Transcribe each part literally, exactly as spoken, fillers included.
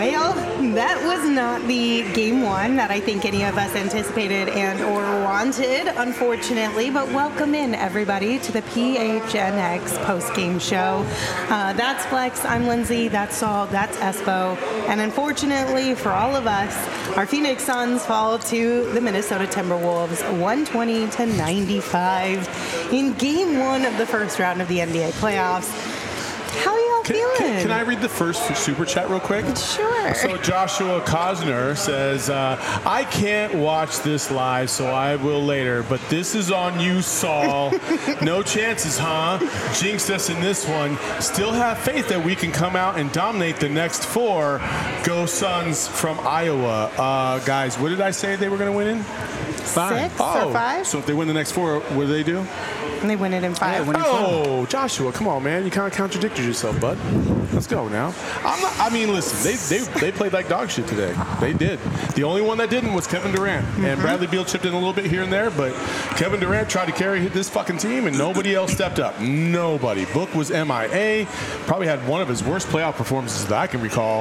Well, that was not the game one that I think any of us anticipated and or wanted, unfortunately. But welcome in, everybody, to the P H N X post-game show. Uh, that's Flex. I'm Lindsay. That's Saul. That's Espo. And unfortunately for all of us, our Phoenix Suns fall to the Minnesota Timberwolves one twenty to ninety-five in game one of the first round of the N B A playoffs. How are y'all can, feeling? Can, can I read the first super chat real quick? Sure. So Joshua Cosner says, uh, I can't watch this live, so I will later. But this is on you, Saul. No chances, huh? Jinxed us in this one. Still have faith that we can come out and dominate the next four. Go Suns from Iowa. Uh, guys, what did I say they were going to win in? Five. Six oh, or five? So if they win the next four, what do they do? And they win it in five. Yeah, oh, Joshua, come on, man. You kind of contradicted yourself, bud. Let's go now. I'm not, I mean, listen, they, they they played like dog shit today. They did. The only one that didn't was Kevin Durant. Mm-hmm. And Bradley Beal chipped in a little bit here and there, but Kevin Durant tried to carry this fucking team, and nobody else stepped up. Nobody. Book was M I A. Probably had one of his worst playoff performances that I can recall.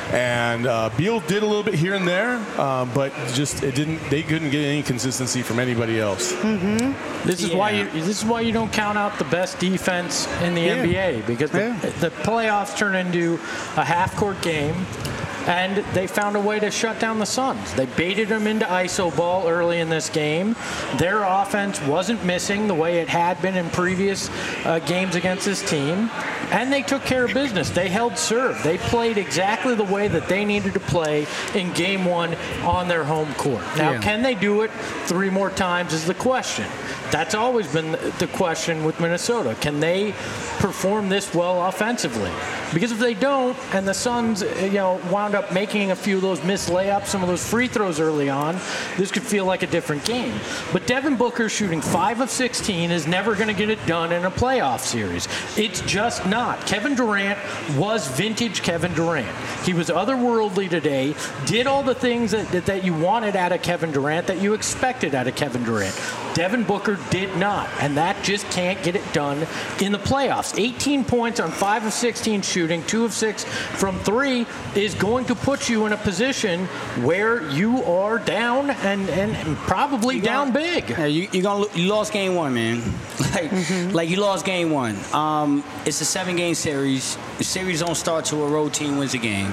And uh, Beal did a little bit here and there, uh, but just it didn't. They couldn't get any consistency from anybody else. Mm-hmm. This is yeah. why you. This is why you don't count out the best defense in the yeah. N B A, because the, yeah. the playoffs turn into a half-court game, and they found a way to shut down the Suns. They baited them into I S O ball early in this game. Their offense wasn't missing the way it had been in previous uh, games against this team, and they took care of business. They held serve. They played exactly the way that they needed to play in game one on their home court. Now, yeah. can they do it three more times is the question. That's always been the question with Minnesota. Can they perform this well offensively? Because if they don't, and the Suns, you know, wound up making a few of those missed layups, some of those free throws early on, this could feel like a different game. But Devin Booker shooting five of sixteen is never going to get it done in a playoff series. It's just not. Kevin Durant was vintage Kevin Durant. He was otherworldly today, did all the things that, that, that you wanted out of Kevin Durant, that you expected out of Kevin Durant. Devin Booker did not, and that just can't get it done in the playoffs. eighteen points on five of sixteen shooting, two of six from three is going to put you in a position where you are down and, and probably you down gonna, big. Yeah, you you gonna you lost game one, man. like mm-hmm. like you lost game one. Um, it's a seven-game series. The series don't start till a road team wins a game.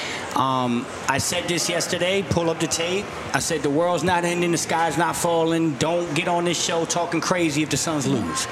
Um, I said this yesterday, pull up the tape. I said the world's not ending, the sky's not falling. Don't get on this show talking crazy if the Suns lose.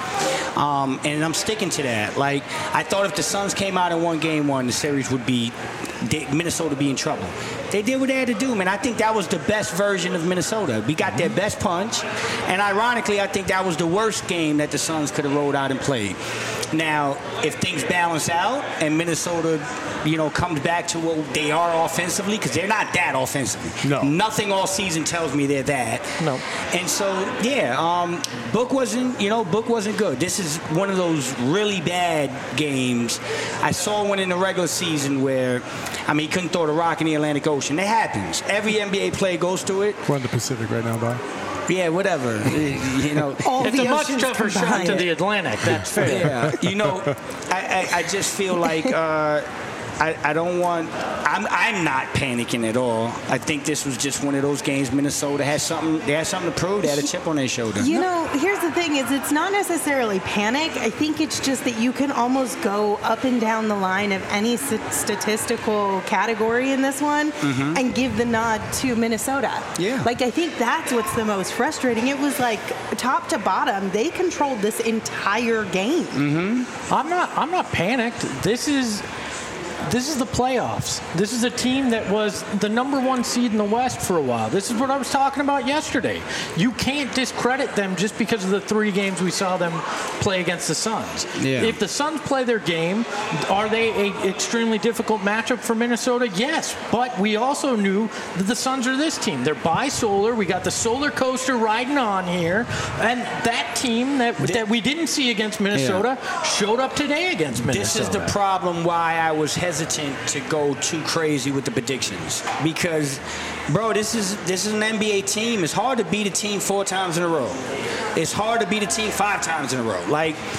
Um, and I'm sticking to that. Like, I thought if the Suns came out and won game one, the series would be, Minnesota would be in trouble. They did what they had to do, man. I think that was the best version of Minnesota. We got their best punch. And ironically, I think that was the worst game that the Suns could have rolled out and played. Now, if things balance out and Minnesota, you know, comes back to what they are offensively, because they're not that offensively. No. Nothing all season tells me they're that. No. And so, yeah, um, Book wasn't, you know, Book wasn't good. This is one of those really bad games. I saw one in the regular season where, I mean, he couldn't throw the rock in the Atlantic Ocean. It happens. Every N B A player goes through it. We're in the Pacific right now, Bob. Yeah, whatever. You know, All it's the a much tougher shot to it. the Atlantic. That's fair. Yeah, you know, I, I, I just feel like uh, I, I don't want. I'm I'm not panicking at all. I think this was just one of those games. Minnesota had something. They had something to prove. They had a chip on their shoulder. You know, here's the thing: is it's not necessarily panic. I think it's just that you can almost go up and down the line of any statistical category in this one mm-hmm. and give the nod to Minnesota. Yeah. Like, I think that's what's the most frustrating. It was like top to bottom, they controlled this entire game. Mm-hmm. I'm not. I'm not panicked. This is. This is the playoffs. This is a team that was the number one seed in the West for a while. This is what I was talking about yesterday. You can't discredit them just because of the three games we saw them play against the Suns. Yeah. If the Suns play their game, are they an extremely difficult matchup for Minnesota? Yes, but we also knew that the Suns are this team. They're bisolar. We got the solar coaster riding on here, and that team that that we didn't see against Minnesota yeah. showed up today against Minnesota. This is the problem why I was hesitant to go too crazy with the predictions, because bro, this is this is an N B A team. It's hard to beat a team four times in a row. It's hard to beat a team five times in a row. Like,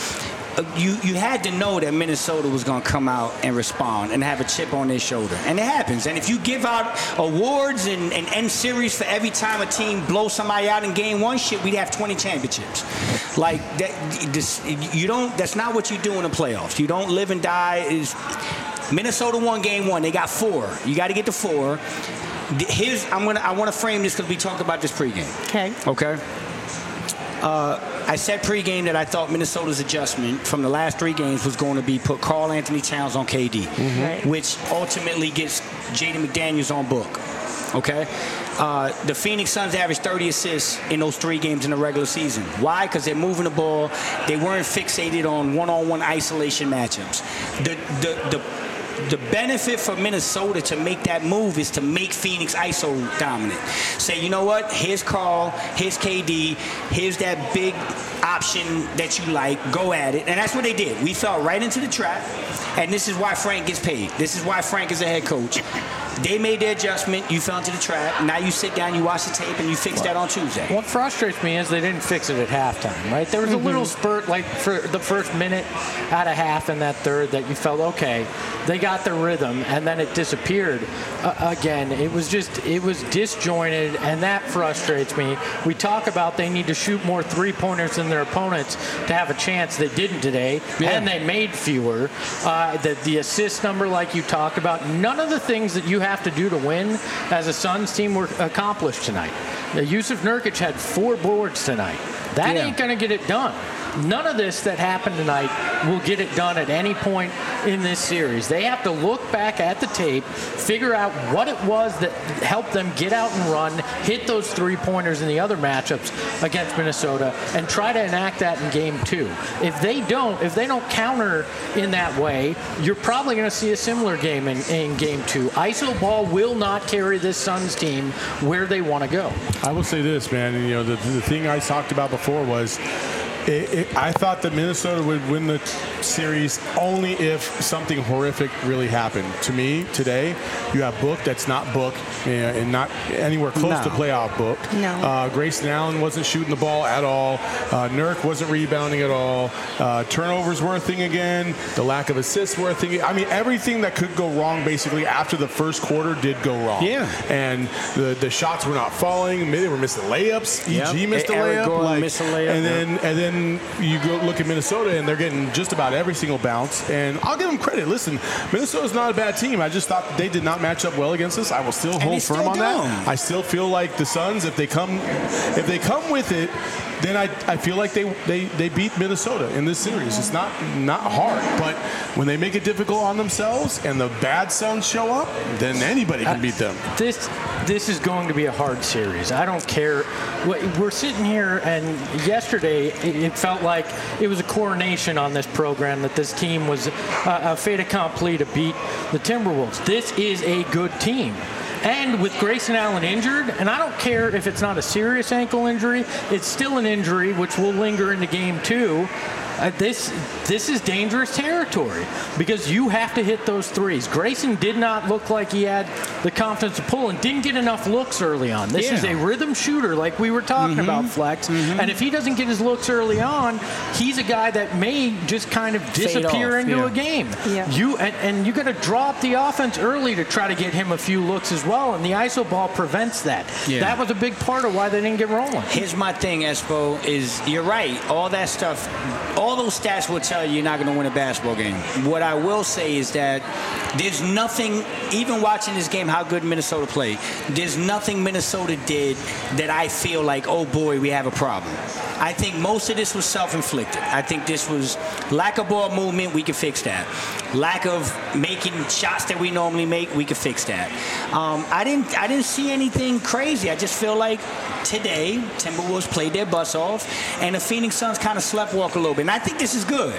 you you had to know that Minnesota was going to come out and respond and have a chip on their shoulder. And it happens. And if you give out awards and, and end series for every time a team blows somebody out in game one, shit, we'd have twenty championships. Like, that, this, you don't, that's not what you do in the playoffs. You don't live and die. Is Minnesota won game one. They got four. You got to get to four. Here's, I'm gonna, I want to frame this because we talked about this pregame. Okay. Okay. Uh, I said pregame that I thought Minnesota's adjustment from the last three games was going to be put Karl Anthony Towns on K D, mm-hmm. right. which ultimately gets Jaden McDaniels on book. Okay? Uh, the Phoenix Suns averaged thirty assists in those three games in the regular season. Why? Because they're moving the ball. They weren't fixated on one-on-one isolation matchups. The, the, the The benefit for Minnesota to make that move is to make Phoenix I S O dominant. Say, you know what? Here's Karl. Here's K D. Here's that big option that you like. Go at it. And that's what they did. We fell right into the trap. And this is why Frank gets paid. This is why Frank is a head coach. They made their adjustment. You fell into the trap. Now you sit down, you watch the tape, and you fix that on Tuesday. What frustrates me is they didn't fix it at halftime, right? There was mm-hmm. a little spurt, like for the first minute out of half in that third, that you felt, okay, they got the rhythm, and then it disappeared. Uh, again, it was just, it was disjointed, and that frustrates me. We talk about they need to shoot more three-pointers than their opponents to have a chance. They didn't today, yeah. and they made fewer. Uh, the, the assist number, like you talked about, none of the things that you have to do to win as a Suns team were accomplished tonight. Now, Yusuf Nurkic had four boards tonight. That yeah. ain't going to get it done. None of this that happened tonight will get it done at any point in this series. They have to look back at the tape, figure out what it was that helped them get out and run, hit those three-pointers in the other matchups against Minnesota, and try to enact that in game two. If they don't, if they don't counter in that way, you're probably going to see a similar game in, in game two. I S O ball will not carry this Suns team where they want to go. I will say this, man. You know, the, the thing I talked about before was It, it, I thought that Minnesota would win the series only if something horrific really happened. To me, today, you have Book that's not Book, you know, and not anywhere close no. to playoff Book. No. Uh, Grayson Allen wasn't shooting the ball at all. Uh, Nurk wasn't rebounding at all. Uh, turnovers were a thing again. The lack of assists were a thing. I mean, everything that could go wrong basically after the first quarter did go wrong. Yeah. And the, the shots were not falling. They were missing layups. Yep. E G missed a Eric layup. Gordon Like, missed a layup. And then, yeah. and then you go look at Minnesota, and they're getting just about every single bounce. And I'll give them credit. Listen, Minnesota's not a bad team. I just thought they did not match up well against us. I will still hold firm on that. I still feel like the Suns, if they come, if they come with it, then I, I feel like they, they, they beat Minnesota in this series. It's not not hard, but when they make it difficult on themselves and the bad Suns show up, then anybody can beat them. Uh, this this is going to be a hard series. I don't care. We're sitting here, and yesterday it felt like it was a coronation on this program that this team was a, a fait accompli to beat the Timberwolves. This is a good team. And with Grayson Allen injured, and I don't care if it's not a serious ankle injury, it's still an injury which will linger into game two. Uh, this this is dangerous territory because you have to hit those threes. Grayson did not look like he had the confidence to pull and didn't get enough looks early on. This yeah. is a rhythm shooter like we were talking mm-hmm. about, Flex. Mm-hmm. And if he doesn't get his looks early on, he's a guy that may just kind of disappear off, into yeah. a game. Yeah. You and, and you got to draw up the offense early to try to get him a few looks as well, and the I S O ball prevents that. Yeah. That was a big part of why they didn't get rolling. Here's my thing, Espo, is you're right. All that stuff, all those stats will tell you you're not going to win a basketball game. What I will say is that there's nothing, even watching this game, how good Minnesota played, there's nothing Minnesota did that I feel like, oh boy, we have a problem. I think most of this was self-inflicted. I think this was lack of ball movement, we can fix that. Lack of making shots that we normally make, we can fix that. Um, I didn't I didn't see anything crazy. I just feel like today, Timberwolves played their butts off, and the Phoenix Suns kind of sleptwalk a little bit. And I think this is good.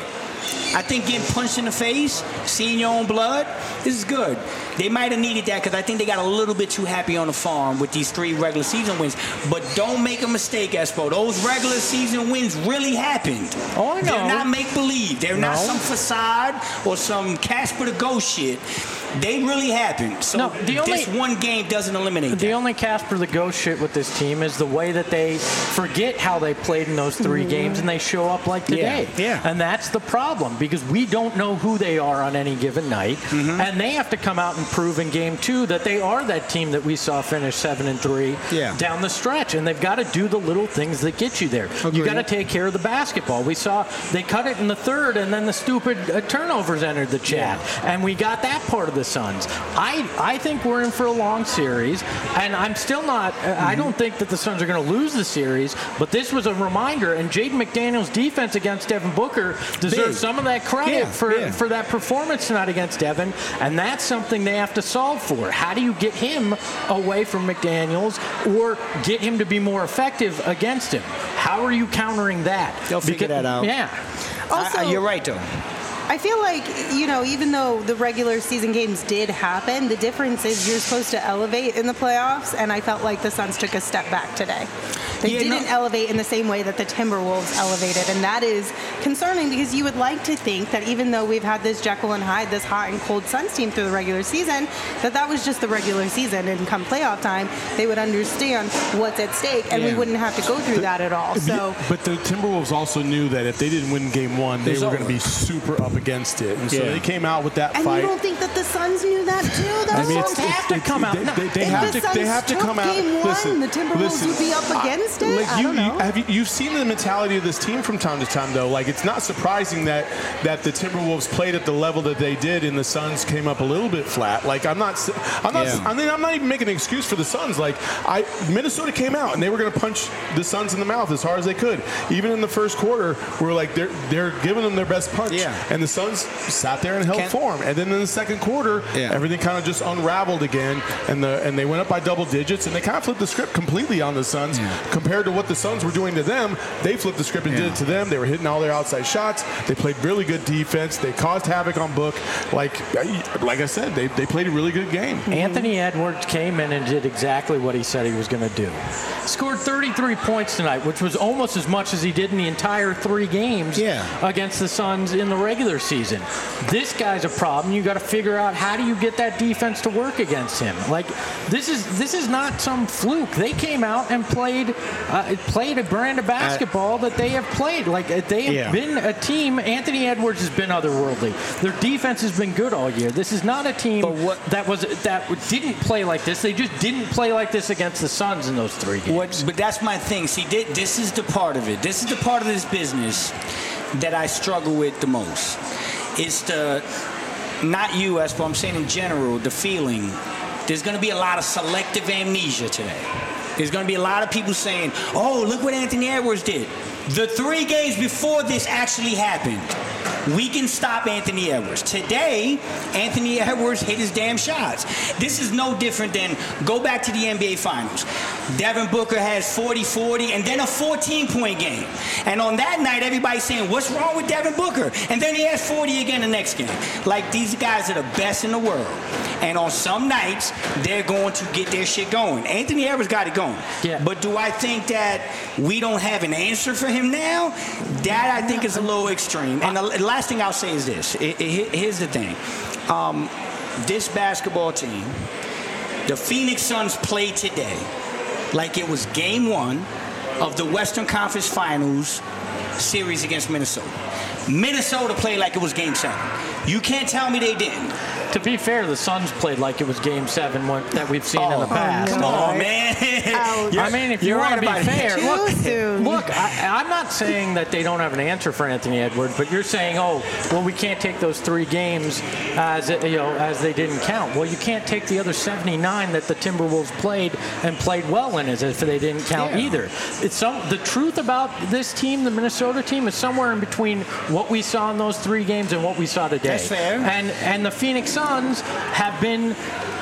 I think getting punched in the face, seeing your own blood, this is good. They might have needed that because I think they got a little bit too happy on the farm with these three regular season wins. But don't make a mistake, Espo. Those regular season wins really happened. Oh, I know. They're not make-believe. They're No. not some facade or some Casper the Ghost shit. They really happened. So No, the only- this one game doesn't eliminate The that. only Casper the Ghost shit with this team is the way that they forget how they played in those three games and they show up like today. Yeah, yeah. And that's the problem because we don't know who they are on any given night. Mm-hmm. And they have to come out and prove in game two that they are that team that we saw finish seven and three Yeah. down the stretch. And they've got to do the little things that get you there. You Agreed. got to take care of the basketball. We saw they cut it in the third and then the stupid uh, turnovers entered the chat. And we got that part of the Suns. I, I think we're in for a long series, and I'm still not. Mm-hmm. I don't think that the Suns are going to lose the series, but this was a reminder. And Jaden McDaniels' defense against Devin Booker deserves Big. some of that credit Yeah, for yeah. for that performance tonight against Devin, and that's something they have to solve for. How do you get him away from McDaniels, or get him to be more effective against him? How are you countering that? They'll figure Because- that out. Yeah. Also, I, I, you're right, though. I feel like, you know, even though the regular season games did happen, the difference is you're supposed to elevate in the playoffs, and I felt like the Suns took a step back today. They Yeah, didn't no- elevate in the same way that the Timberwolves elevated, and that is concerning because you would like to think that even though we've had this Jekyll and Hyde, this hot and cold Suns team through the regular season, that that was just the regular season, and come playoff time, they would understand what's at stake, and we Yeah. wouldn't have to go through that at all. So. But the Timberwolves also knew that if they didn't win game one, they It's were going to over. be super up against it. And so Yeah. they came out with that And fight. you don't think that the Suns knew that too? The Though? Suns have to come out. They, No, they, they If have the to. They Suns have to took come out. game one, listen, the Timberwolves listen, would be up against it? Like I you, don't know. you, have you, you've seen the mentality of this team from time to time, though. Like it's not surprising that that the Timberwolves played at the level that they did, and the Suns came up a little bit flat. Like I'm not. s- I'm not. Yeah. I mean, I'm not even making an excuse for the Suns. Like I, Minnesota came out and they were going to punch the Suns in the mouth as hard as they could. Even in the first quarter, we were like they're they're giving them their best punch. Yeah. And the Suns sat there and held Can't- form. And then in the second quarter, Yeah. everything kind of just unraveled again, and the and they went up by double digits, and they kind of flipped the script completely on the Suns Yeah. compared to what the Suns were doing to them. They flipped the script and did Yeah. it to them. They were hitting all their outside shots. They played really good defense. They caused havoc on Book. Like like I said, they, they played a really good game. Anthony Edwards came in and did exactly what he said he was going to do. Scored thirty-three points tonight, which was almost as much as he did in the entire three games Yeah. against the Suns in the regular season. This guy's a problem. You got to figure out how do you get that defense to work against him. Like this is this is not some fluke. They came out and played uh, played a brand of basketball that they have played. Like uh, they have Yeah. been a team. Anthony Edwards has been otherworldly. Their defense has been good all year. This is not a team But what- that was that didn't play like this. They just didn't play like this against the Suns in those three games. What, but that's my thing. See, thi- this is the part of it. This is the part of this business that I struggle with the most. It's the, not you, Espo, I'm saying in general, the feeling. There's going to be a lot of selective amnesia today. There's going to be a lot of people saying, oh, look what Anthony Edwards did. The three games before this actually happened. We can stop Anthony Edwards. Today, Anthony Edwards hit his damn shots. This is no different than go back to the N B A Finals. Devin Booker has forty forty and then a fourteen-point game. And on that night, everybody's saying, what's wrong with Devin Booker? And then he has forty again the next game. Like, these guys are the best in the world. And on some nights, they're going to get their shit going. Anthony Edwards got it going. Yeah. But do I think that we don't have an answer for him now? That, I think, is a little extreme. And the last thing I'll say is this. It, it, here's the thing. Um, this basketball team, the Phoenix Suns played today like it was game one of the Western Conference Finals series against Minnesota. Minnesota played like it was game seven. You can't tell me they didn't. To be fair, the Suns played like it was Game Seven one, that we've seen in the Oh, past. Come on, man. Ouch. I mean, if you You're want to right be about it. fair, Too look, soon. look I, I'm not saying that they don't have an answer for Anthony Edwards, but you're saying, oh, well, we can't take those three games as you know as they didn't count. Well, you can't take the other seventy-nine that the Timberwolves played and played well in as if they didn't count Yeah. either. It's some the truth about this team, the Minnesota team, is somewhere in between what we saw in those three games and what we saw today. That's fair. And and the Phoenix Suns have been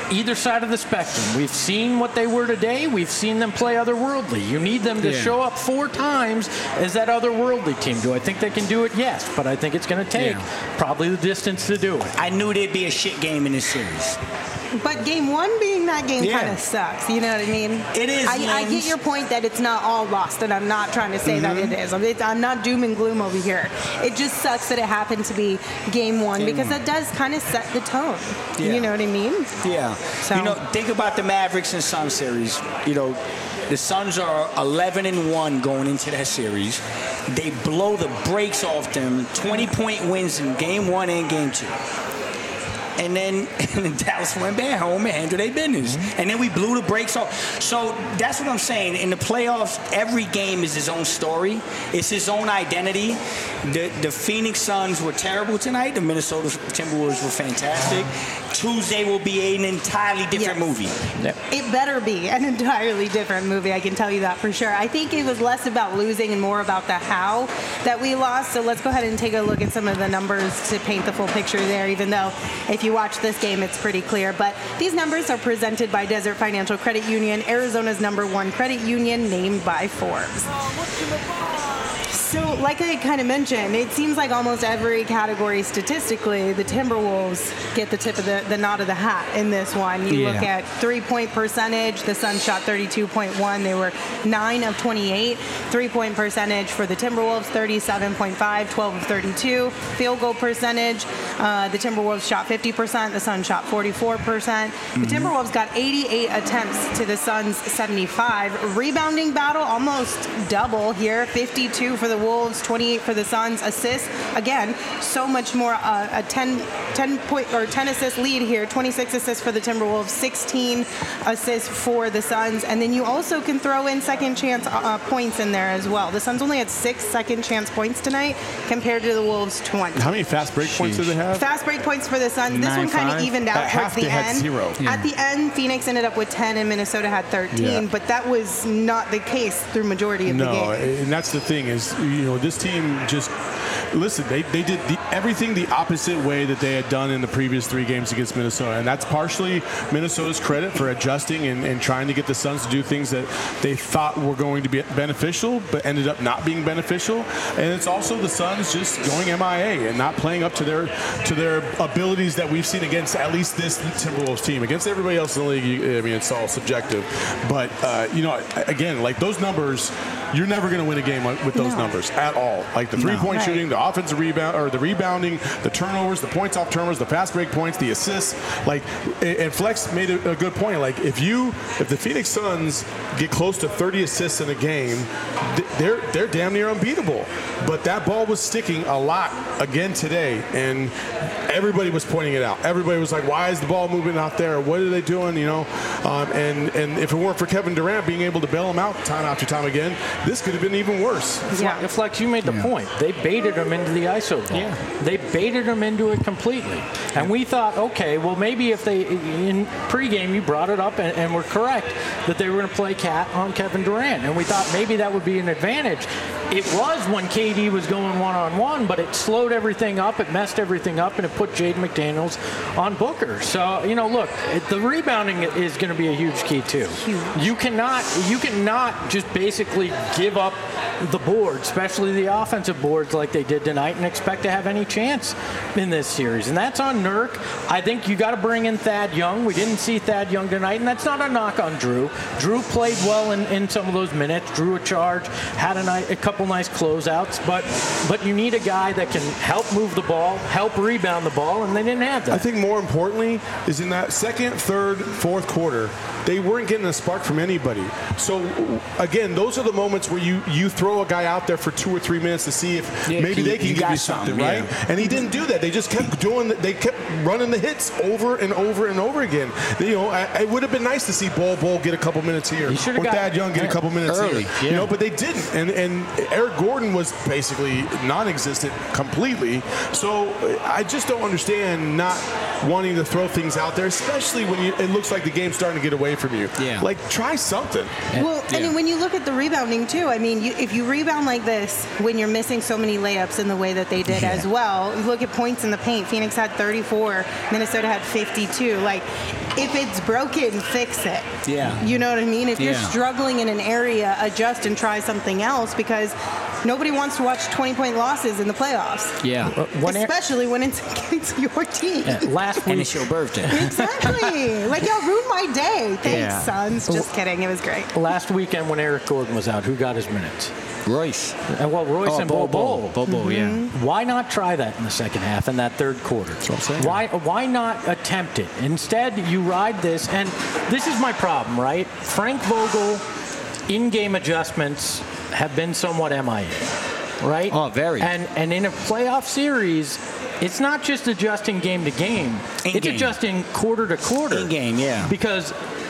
either side of the spectrum. We've seen what they were today. We've seen them play otherworldly. You need them to Yeah. show up four times as that otherworldly team. Do I think they can do it? Yes, but I think it's going to take Yeah. probably the distance to do it. I knew there'd be a shit game in this series. But game one being that game Yeah. kind of sucks. You know what I mean? It is, I, I Lens. get your point that it's not all lost, and I'm not trying to say that Mm-hmm. it is. I'm, it, I'm not doom and gloom over here. It just sucks that it happened to be game one Game because one. that does kind of set the tone. Yeah. You know what I mean? Yeah. So- You know, think about the Mavericks and Suns series. You know, the Suns are eleven and one going into that series. They blow the brakes off them, twenty point wins in game one and game two. And then, and then Dallas went back home and handled their business. Mm-hmm. And then we blew the brakes off. So that's what I'm saying. In the playoffs, every game is his own story. It's his own identity. The, the Phoenix Suns were terrible tonight. The Minnesota Timberwolves were fantastic. Tuesday will be an entirely different Yes. movie. It better be an entirely different movie, I can tell you that for sure. I think it was less about losing and more about the how that we lost. So let's go ahead and take a look at some of the numbers to paint the full picture there, even though if you watch this game, it's pretty clear. But these numbers are presented by Desert Financial Credit Union, Arizona's number one credit union, named by Forbes. So, like I kind of mentioned, it seems like almost every category statistically, the Timberwolves get the tip of the, the nod of the hat in this one. You Yeah. look at three-point percentage, the Suns shot thirty-two point one. They were nine of twenty-eight. Three-point percentage for the Timberwolves, thirty-seven point five, twelve of thirty-two. Field goal percentage, uh, the Timberwolves shot fifty percent. The Suns shot forty-four percent. The Timberwolves got eighty-eight attempts to the Suns' seventy-five. Rebounding battle, almost double here, fifty-two for the Wolves, twenty-eight for the Suns. Assists, again, so much more. Uh, a ten, ten point or ten assist lead here. twenty-six assists for the Timberwolves, sixteen assists for the Suns, and then you also can throw in second chance uh, points in there as well. The Suns only had six second chance points tonight compared to the Wolves' twenty. How many fast break points did they have? Fast break points for the Suns. This Nine, one kind of five. evened out At towards half, the they had end. zero. At the end, Phoenix ended up with ten, and Minnesota had thirteen. Yeah. But that was not the case through majority of No, the game. and that's the thing is, you know, this team just listen. They, they did the, everything the opposite way that they had done in the previous three games against Minnesota, and that's partially Minnesota's credit for adjusting and, and trying to get the Suns to do things that they thought were going to be beneficial, but ended up not being beneficial. And it's also the Suns just going M I A and not playing up to their to their abilities that we've seen against at least this Timberwolves team. Against everybody else in the league, you, I mean, it's all subjective. But uh, you know, again, like those numbers, you're never going to win a game with those No. numbers at all. Like the three-point Right. shooting, the offensive rebound, or the rebounding, the turnovers, the points off turnovers, the fast break points, the assists. Like, and Flex made a, a good point. Like, if you, if the Phoenix Suns get close to thirty assists in a game, they're they're damn near unbeatable. But that ball was sticking a lot again today, and everybody was pointing it out. Everybody was like, "Why is the ball moving out there? What are they doing?" You know, um, and and if it weren't for Kevin Durant being able to bail them out time after time again, this could have been even worse. Yeah. Flex, you made the point. They baited them into the I S O ball. Yeah. They baited them into it completely. And we thought, okay, well, maybe if they, in pregame, you brought it up and, and were correct that they were going to play Cat on Kevin Durant. And we thought maybe that would be an advantage. It was when K D was going one-on-one, but it slowed everything up, it messed everything up, and it put Jaden McDaniels on Booker. So, you know, look, it, the rebounding is going to be a huge key, too. Huge. You cannot, you cannot just basically give up the board, especially the offensive boards like they did tonight, and expect to have any chance in this series. And that's on Nurk. I think you got to bring in Thad Young. We didn't see Thad Young tonight, and that's not a knock on Drew. Drew played well in, in some of those minutes, drew a charge, had a, nice, a couple nice closeouts, but but you need a guy that can help move the ball, help rebound the ball, and they didn't have that. I think more importantly is in that second, third, fourth quarter, they weren't getting a spark from anybody. So again, those are the moments where you you throw a guy out there for two or three minutes to see if Yeah, maybe you- they can you give got you something, something, right? yeah. And he didn't do that. They just kept doing. They kept running the hits over and over and over again. You know, I, it would have been nice to see Bol Bol get a couple minutes here, He or should've got- Thad Young get a couple minutes early, here. yeah. You know, but they didn't. And and Eric Gordon was basically non-existent completely. So I just don't understand not wanting to throw things out there, especially when you, it looks like the game's starting to get away from you. Yeah. Like, try something. Well, Yeah. and when you look at the rebounding too, I mean, you, if you rebound like this when you're missing so many layups in the way that they did Yeah. as well, you look at points in the paint. Phoenix had thirty, twenty-four. Minnesota had fifty-two. Like, if it's broken, fix it. Yeah. You know what I mean? If you're Yeah. struggling in an area, adjust and try something else, because nobody wants to watch twenty-point losses in the playoffs. Yeah. When Aaron- Especially when it's against your team. Yeah, last And week, it's your birthday. Exactly. Like, y'all ruined my day. Thanks, Yeah. Suns. Just kidding. It was great. last weekend when Eric Gordon was out, who got his minutes? Royce. And well, Royce Oh, and Bo Bo. Bobo, yeah. Why not try that in the second half in that third quarter? what I'm saying. Why why not attempt it? Instead, you ride this, and this is my problem, right? Frank Vogel, in-game adjustments have been somewhat M I A, right? Oh, very. And and in a playoff series, it's not just adjusting game to game. In it's game. adjusting quarter to quarter. In game, yeah. Because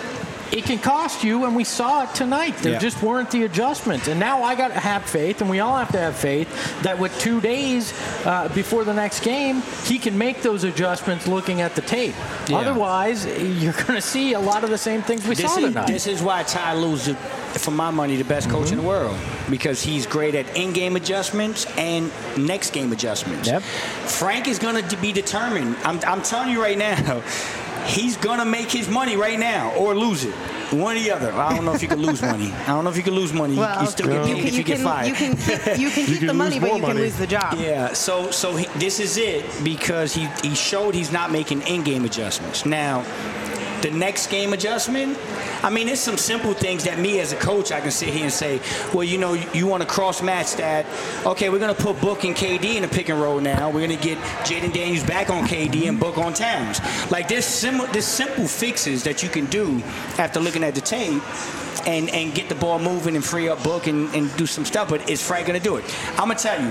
it can cost you, and we saw it tonight. There Yeah. just weren't the adjustments. And now I got to have faith, and we all have to have faith, that with two days uh, before the next game, he can make those adjustments looking at the tape. Yeah. Otherwise, you're going to see a lot of the same things we This saw is, tonight. this is why Ty Lue's, the- for my money, the best coach in the world, because he's great at in-game adjustments and next game adjustments. Yep. Frank is going to be determined. I'm, I'm telling you right now, he's going to make his money right now or lose it. One or the other. I don't know if you can lose money. I don't know if you can lose money. You- Well, you still get you paid can, if you you get can, fired. you can keep, you can keep can the money, lose but more you can money. lose the job. Yeah, so so he, this is it because he, he showed he's not making in-game adjustments. Now, the next game adjustment, I mean, it's some simple things that me as a coach, I can sit here and say, well, you know, you, you want to cross-match that. Okay, we're going to put Book and K D in the pick and roll now. We're going to get Jaden Daniels back on K D and Book on Towns. Like, there's, sim- there's simple fixes that you can do after looking at the tape and, and get the ball moving and free up Book and, and do some stuff. But is Frank going to do it? I'm going to tell you,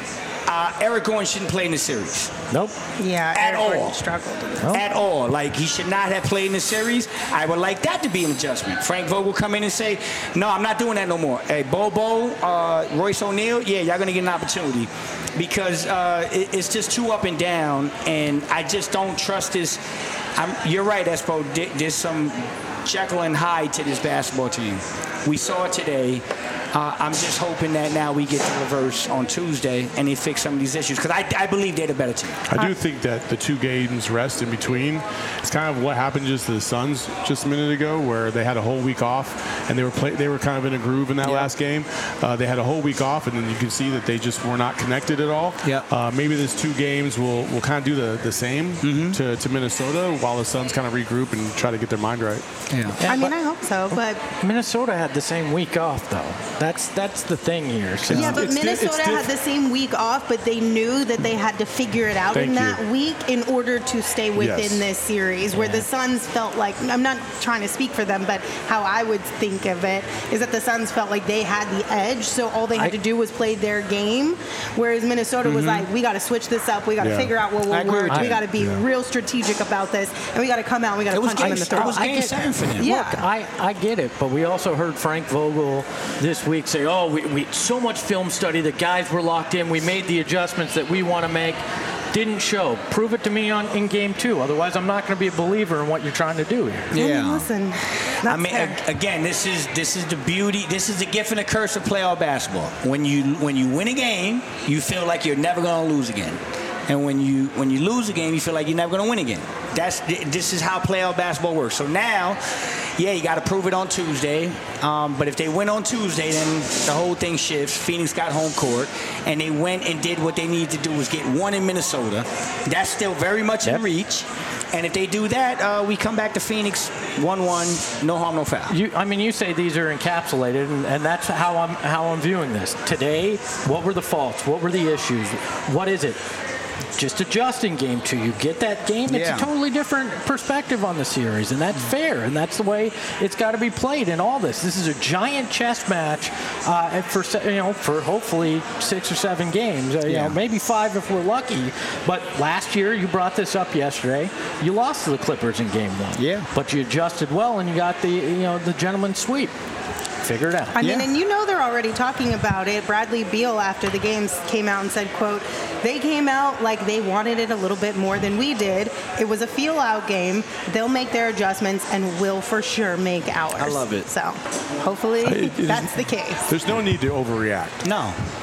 uh, Eric Gordon shouldn't play in the series. Nope. Yeah, At Eric Gordon all. struggled. At all. Like, he should not have played in the series. I would like that to be an adjustment. Frank Vogel come in and say, no, I'm not doing that no more. Hey, Bobo, uh, Royce O'Neal, yeah, y'all going to get an opportunity. Because uh, it, it's just too up and down, and I just don't trust this. I'm, you're right, Espo. There- There's some Jekyll and Hyde to this basketball team. We saw it today. Uh, I'm just hoping that now we get the reverse on Tuesday and they fix some of these issues because I, I believe they're the better team. I do think that the two games rest in between is kind of what happened just to the Suns just a minute ago, where they had a whole week off and they were play, they were kind of in a groove in that Yeah. last game. Uh, they had a whole week off, and then you can see that they just were not connected at all. Yeah. Uh, maybe these two games will, will kind of do the, the same Mm-hmm. to, to Minnesota while the Suns kind of regroup and try to get their mind right. Yeah. I mean, I hope so, but Minnesota had the same week off, though. That's that's the thing here. So yeah, but it's di- Minnesota it's had diff- the same week off, but they knew that they had to figure it out Thank in that you. week in order to stay within Yes. this series. Where Yeah. the Suns felt like, I'm not trying to speak for them, but how I would think of it is that the Suns felt like they had the edge, so all they had I- to do was play their game. Whereas Minnesota was like, we got to switch this up, we got to Yeah. figure out what I will agree work, with we you. got to be Yeah. real strategic about this, and we got to come out, we got to It was punch them game, in the it throat. was I game get- seven for them. Yeah. Look, I, I get it, but we also heard Frank Vogel this week say, oh, we, we so much film study, the guys were locked in, we made the adjustments that we want to make. Didn't show. Prove it to me on in game two. Otherwise, I'm not going to be a believer in what you're trying to do here. I mean, listen, that's I mean, fair. a- again, this is this is the beauty. This is the gift and the curse of playoff basketball. When you when you win a game, you feel like you're never going to lose again, and when you when you lose a game, you feel like you're never going to win again. That's this is how playoff basketball works. So now, yeah, you got to prove it on Tuesday. Um, but if they win on Tuesday, then the whole thing shifts. Phoenix got home court, and they went and did what they needed to do was get one in Minnesota. That's still very much Yep. in reach. And if they do that, uh, we come back to Phoenix one one, no harm, no foul. You, I mean, you say these are encapsulated, and, and that's how I'm how I'm viewing this. Today, what were the faults? What were the issues? What is it? Just adjusting game two. You get that game. It's Yeah. a totally different perspective on the series, and that's fair, and that's the way it's got to be played in all this. This is a giant chess match uh, for se- you know for hopefully six or seven games. Uh, you Yeah. know, maybe five if we're lucky. But last year, you brought this up yesterday. You lost to the Clippers in game one. Yeah. But you adjusted well, and you got the you know the gentleman's sweep. Figure it out. I mean, Yeah. and you know they're already talking about it. Bradley Beal, after the games, came out and said, quote, they came out like they wanted it a little bit more than we did. It was a feel-out game. They'll make their adjustments and will for sure make ours. I love it. So hopefully It- it is- that's the case. There's no need to overreact. No.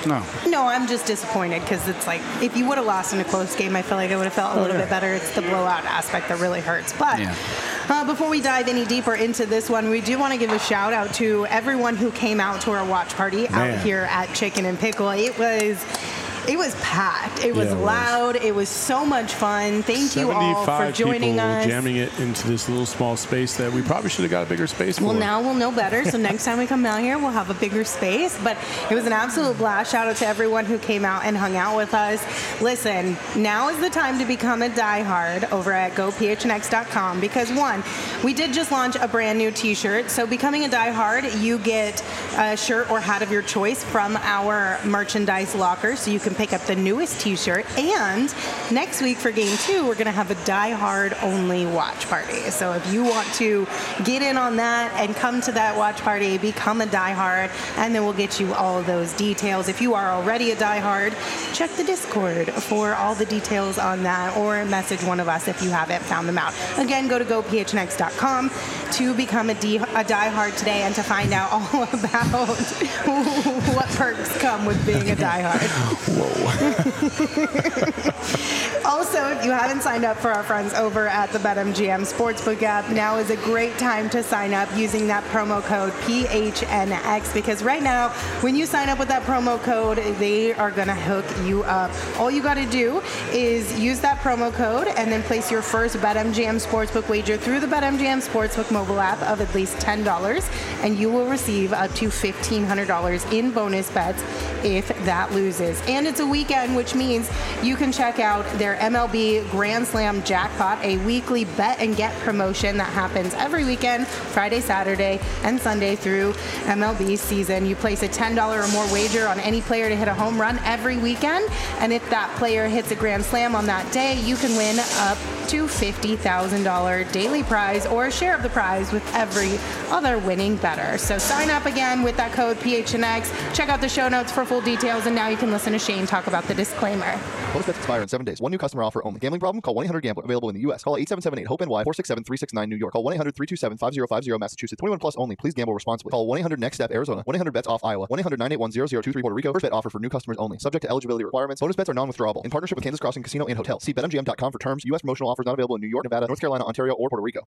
No. No, I'm just disappointed because it's like if you would have lost in a close game, I feel like I would have felt a little yeah. bit better. It's the blowout aspect that really hurts. But Yeah. uh, before we dive any deeper into this one, we do want to give a shout out to everyone who came out to our watch party Man. out here at Chicken and Pickle. It was. It was packed. It was Yeah, it was. loud. It was so much fun. Thank you all for joining people us. jamming it into this little small space that we probably should have got a bigger space Well, for. now we'll know better. So next time we come out here, we'll have a bigger space. But it was an absolute blast. Shout out to everyone who came out and hung out with us. Listen, now is the time to become a diehard over at go p h n x dot com because, one, we did just launch a brand new T-shirt. So becoming a diehard, you get a shirt or hat of your choice from our merchandise locker. So you can pick up the newest T-shirt. And next week for game two, we're going to have a diehard only watch party. So if you want to get in on that and come to that watch party, become a diehard, and then we'll get you all of those details. If you are already a diehard, check the Discord for all the details on that, or message one of us if you haven't found them out. Again, go to go p h n x dot com to become a, D- a diehard today and to find out all about what perks come with being a diehard. Whoa. Also, if you haven't signed up for our friends over at the BetMGM Sportsbook app, now is a great time to sign up using that promo code P H N X because right now, when you sign up with that promo code, they are going to hook you up. All you got to do is use that promo code and then place your first BetMGM Sportsbook wager through the BetMGM Sportsbook mobile app of at least ten dollars, and you will receive up to fifteen hundred dollars in bonus bets if that loses. And it's a weekend, which means you can check out their M L B Grand Slam Jackpot, a weekly bet and get promotion that happens every weekend, Friday, Saturday, and Sunday through M L B season. You place a ten dollars or more wager on any player to hit a home run every weekend, and if that player hits a Grand Slam on that day, you can win up to fifty thousand dollars daily prize or a share of the prize with every other winning bettor. So sign up again with that code P H N X. Check out the show notes for full details, and now you can listen to Shane talk about the disclaimer. Bonus bets expire in seven days. One new customer offer only. Gambling problem? Call one eight hundred gambler. Available in the U S. Call eight seven seven eight hope N Y four six seven three six nine New York. Call one eight hundred three two seven five zero five zero Massachusetts. twenty-one plus only. Please gamble responsibly. Call one eight hundred next step Arizona. one eight hundred bets off Iowa. one eight hundred nine eight one zero zero two three Puerto Rico. First bet offer for new customers only. Subject to eligibility requirements. Bonus bets are non-withdrawable. In partnership with Kansas Crossing Casino and Hotel. See bet M G M dot com for terms. U S promotional offers not available in New York, Nevada, North Carolina, Ontario, or Puerto Rico.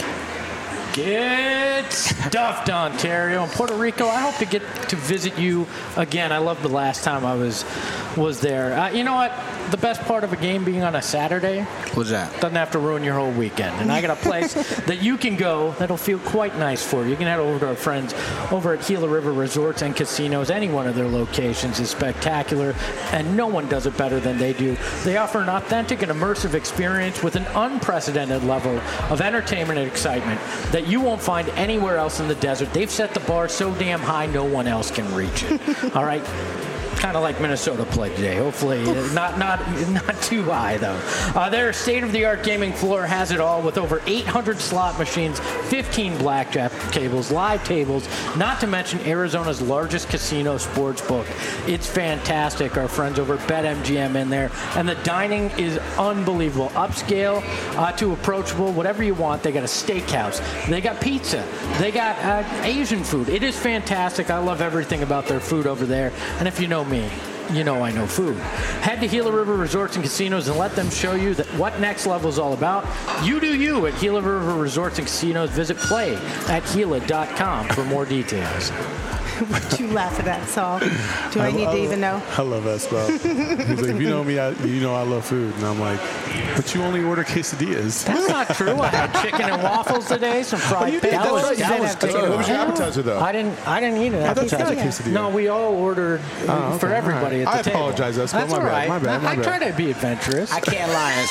Get stuffed, Ontario and Puerto Rico. I hope to get to visit you again. I loved the last time I was was there. Uh, you know what? The best part of a game being on a Saturday What's that? doesn't have to ruin your whole weekend. And I got a place that you can go that'll feel quite nice for you. You can head over to our friends over at Gila River Resorts and Casinos. Any one of their locations is spectacular, and no one does it better than they do. They offer an authentic and immersive experience with an unprecedented level of entertainment and excitement that you won't find anywhere else in the desert. They've set the bar so damn high no one else can reach it. All right? Kind of like Minnesota played today. Hopefully not not not too high, though. Uh, their state-of-the-art gaming floor has it all with over eight hundred slot machines, fifteen blackjack tables, live tables, not to mention Arizona's largest casino sports book. It's fantastic. Our friends over at BetMGM in there. And the dining is unbelievable. Upscale uh, to approachable, whatever you want. They got a steakhouse. They got pizza. They got uh, Asian food. It is fantastic. I love everything about their food over there. And if you know me, you know I know food. Head to Gila River Resorts and Casinos and let them show you that what Next Level is all about. You do you at Gila River Resorts and Casinos. Visit play at Gila dot com for more details. Would you laugh at that, Saul? Do I, I need I, to even know? I love that stuff. He's like, if you know me, I, you know I love food. And I'm like, but you only order quesadillas. That's not true. I had chicken and waffles today, some fried oh, pickles. That was, that was good. What was your appetizer, though? I didn't I didn't eat an I appetizer. thought you got a quesadilla. No, we all ordered oh, okay. for everybody right. at the I table. I apologize, Espo. That's my all bad. right. My bad. My I, bad. I try to be adventurous. I can't lie,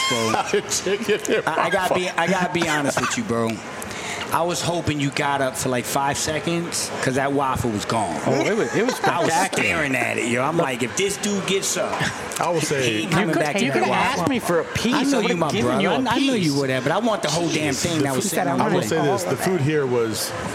Espo. I, I gotta be I gotta be honest with you, bro. I was hoping you got up for like five seconds because that waffle was gone. Oh, it was, it was I was staring at it, yo. I'm like, if this dude gets up, I will say, he ain't coming you could, back you to could that have waffle. asked me for a piece. I know I you, my brother. you a I, I know piece. you would have, but I want the whole damn thing that was sitting on I the will plate. say this: the food here was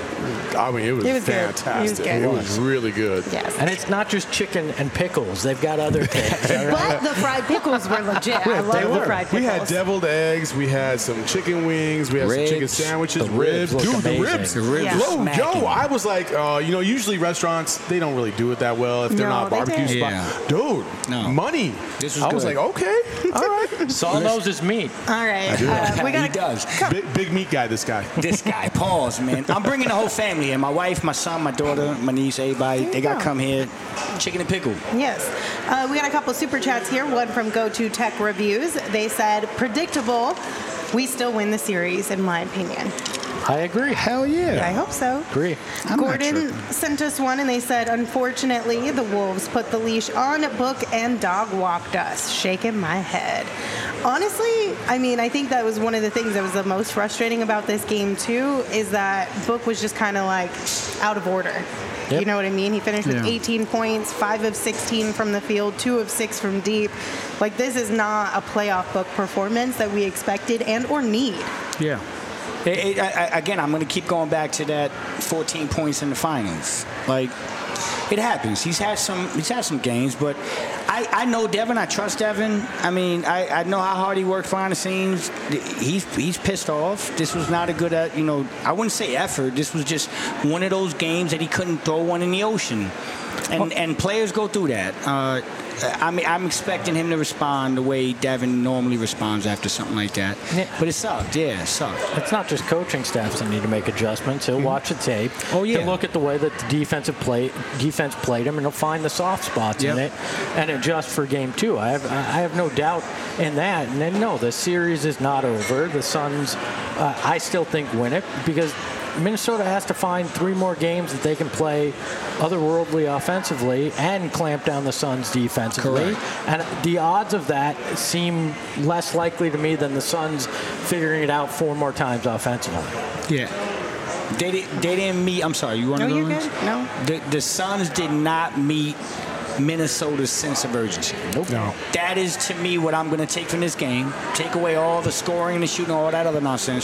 I mean, it was, It was good. fantastic. It was good. It was really good. Yes. And it's not just chicken and pickles. They've got other things. all right? But the fried pickles were legit. I love they the were. fried We pickles. had deviled eggs. We had some chicken wings. We had Ribs. some chicken sandwiches. The ribs look Dude, the amazing. ribs. The ribs Yeah. were Low smacking. Joe, I was like, uh, you know, usually restaurants, they don't really do it that well if they're No, not they barbecue didn't. spot. Yeah. Dude, No. money. This was I was good. like, okay, all right. Saul knows his meat. All right. Uh, we he got does. big, big meat guy, this guy. This guy, pause, man. I'm bringing the whole family here. My wife, my son, my daughter, my niece, everybody. There They you got to go. come here. Chicken and pickle. Yes. Uh, we got a couple super chats here. One from Go To Tech Reviews. They said, predictable. We still win the series, in my opinion. I agree. Hell yeah. I hope so. Agree. I'm not Gordon tripping. sent us one, and they said, unfortunately, the Wolves put the leash on Book and dog walked us. Shaking my head. Honestly, I mean, I think that was one of the things that was the most frustrating about this game, too, is that Book was just kind of like out of order. Yep. You know what I mean? He finished with Yeah. eighteen points, five of sixteen from the field, two of six from deep. Like, this is not a playoff Book performance that we expected and or need. Yeah. It, it, I, I- again, I'm going to keep going back to that fourteen points in the finals. Like, it happens. He's had some. He's had some games, but I, I know Devin. I trust Devin. I mean, I, I know how hard he worked behind the scenes. He's he's pissed off. This was not a good. Uh, you know, I wouldn't say effort. This was just one of those games that he couldn't throw one in the ocean, and and players go through that. Uh, I mean, I'm expecting him to respond the way Devin normally responds after something like that. Yeah. But it sucked. Yeah, it sucked. It's not just coaching staffs that need to make adjustments. He'll watch the tape. Oh, yeah. He'll look at the way that the defensive play defense played him, and he'll find the soft spots in Yep. it and adjust for game two. I have I have no doubt in that. And then no, the series is not over. The Suns, uh, I still think, win it because Minnesota has to find three more games that they can play otherworldly offensively and clamp down the Suns defensively. Correct. And the odds of that seem less likely to me than the Suns figuring it out four more times offensively. Yeah. They, di- they didn't meet. I'm sorry, you want to No, go? you're on? good. No. The, the Suns did not meet Minnesota's sense of urgency. Nope. No. That is, to me, what I'm going to take from this game. Take away all the scoring, the shooting, all that other nonsense.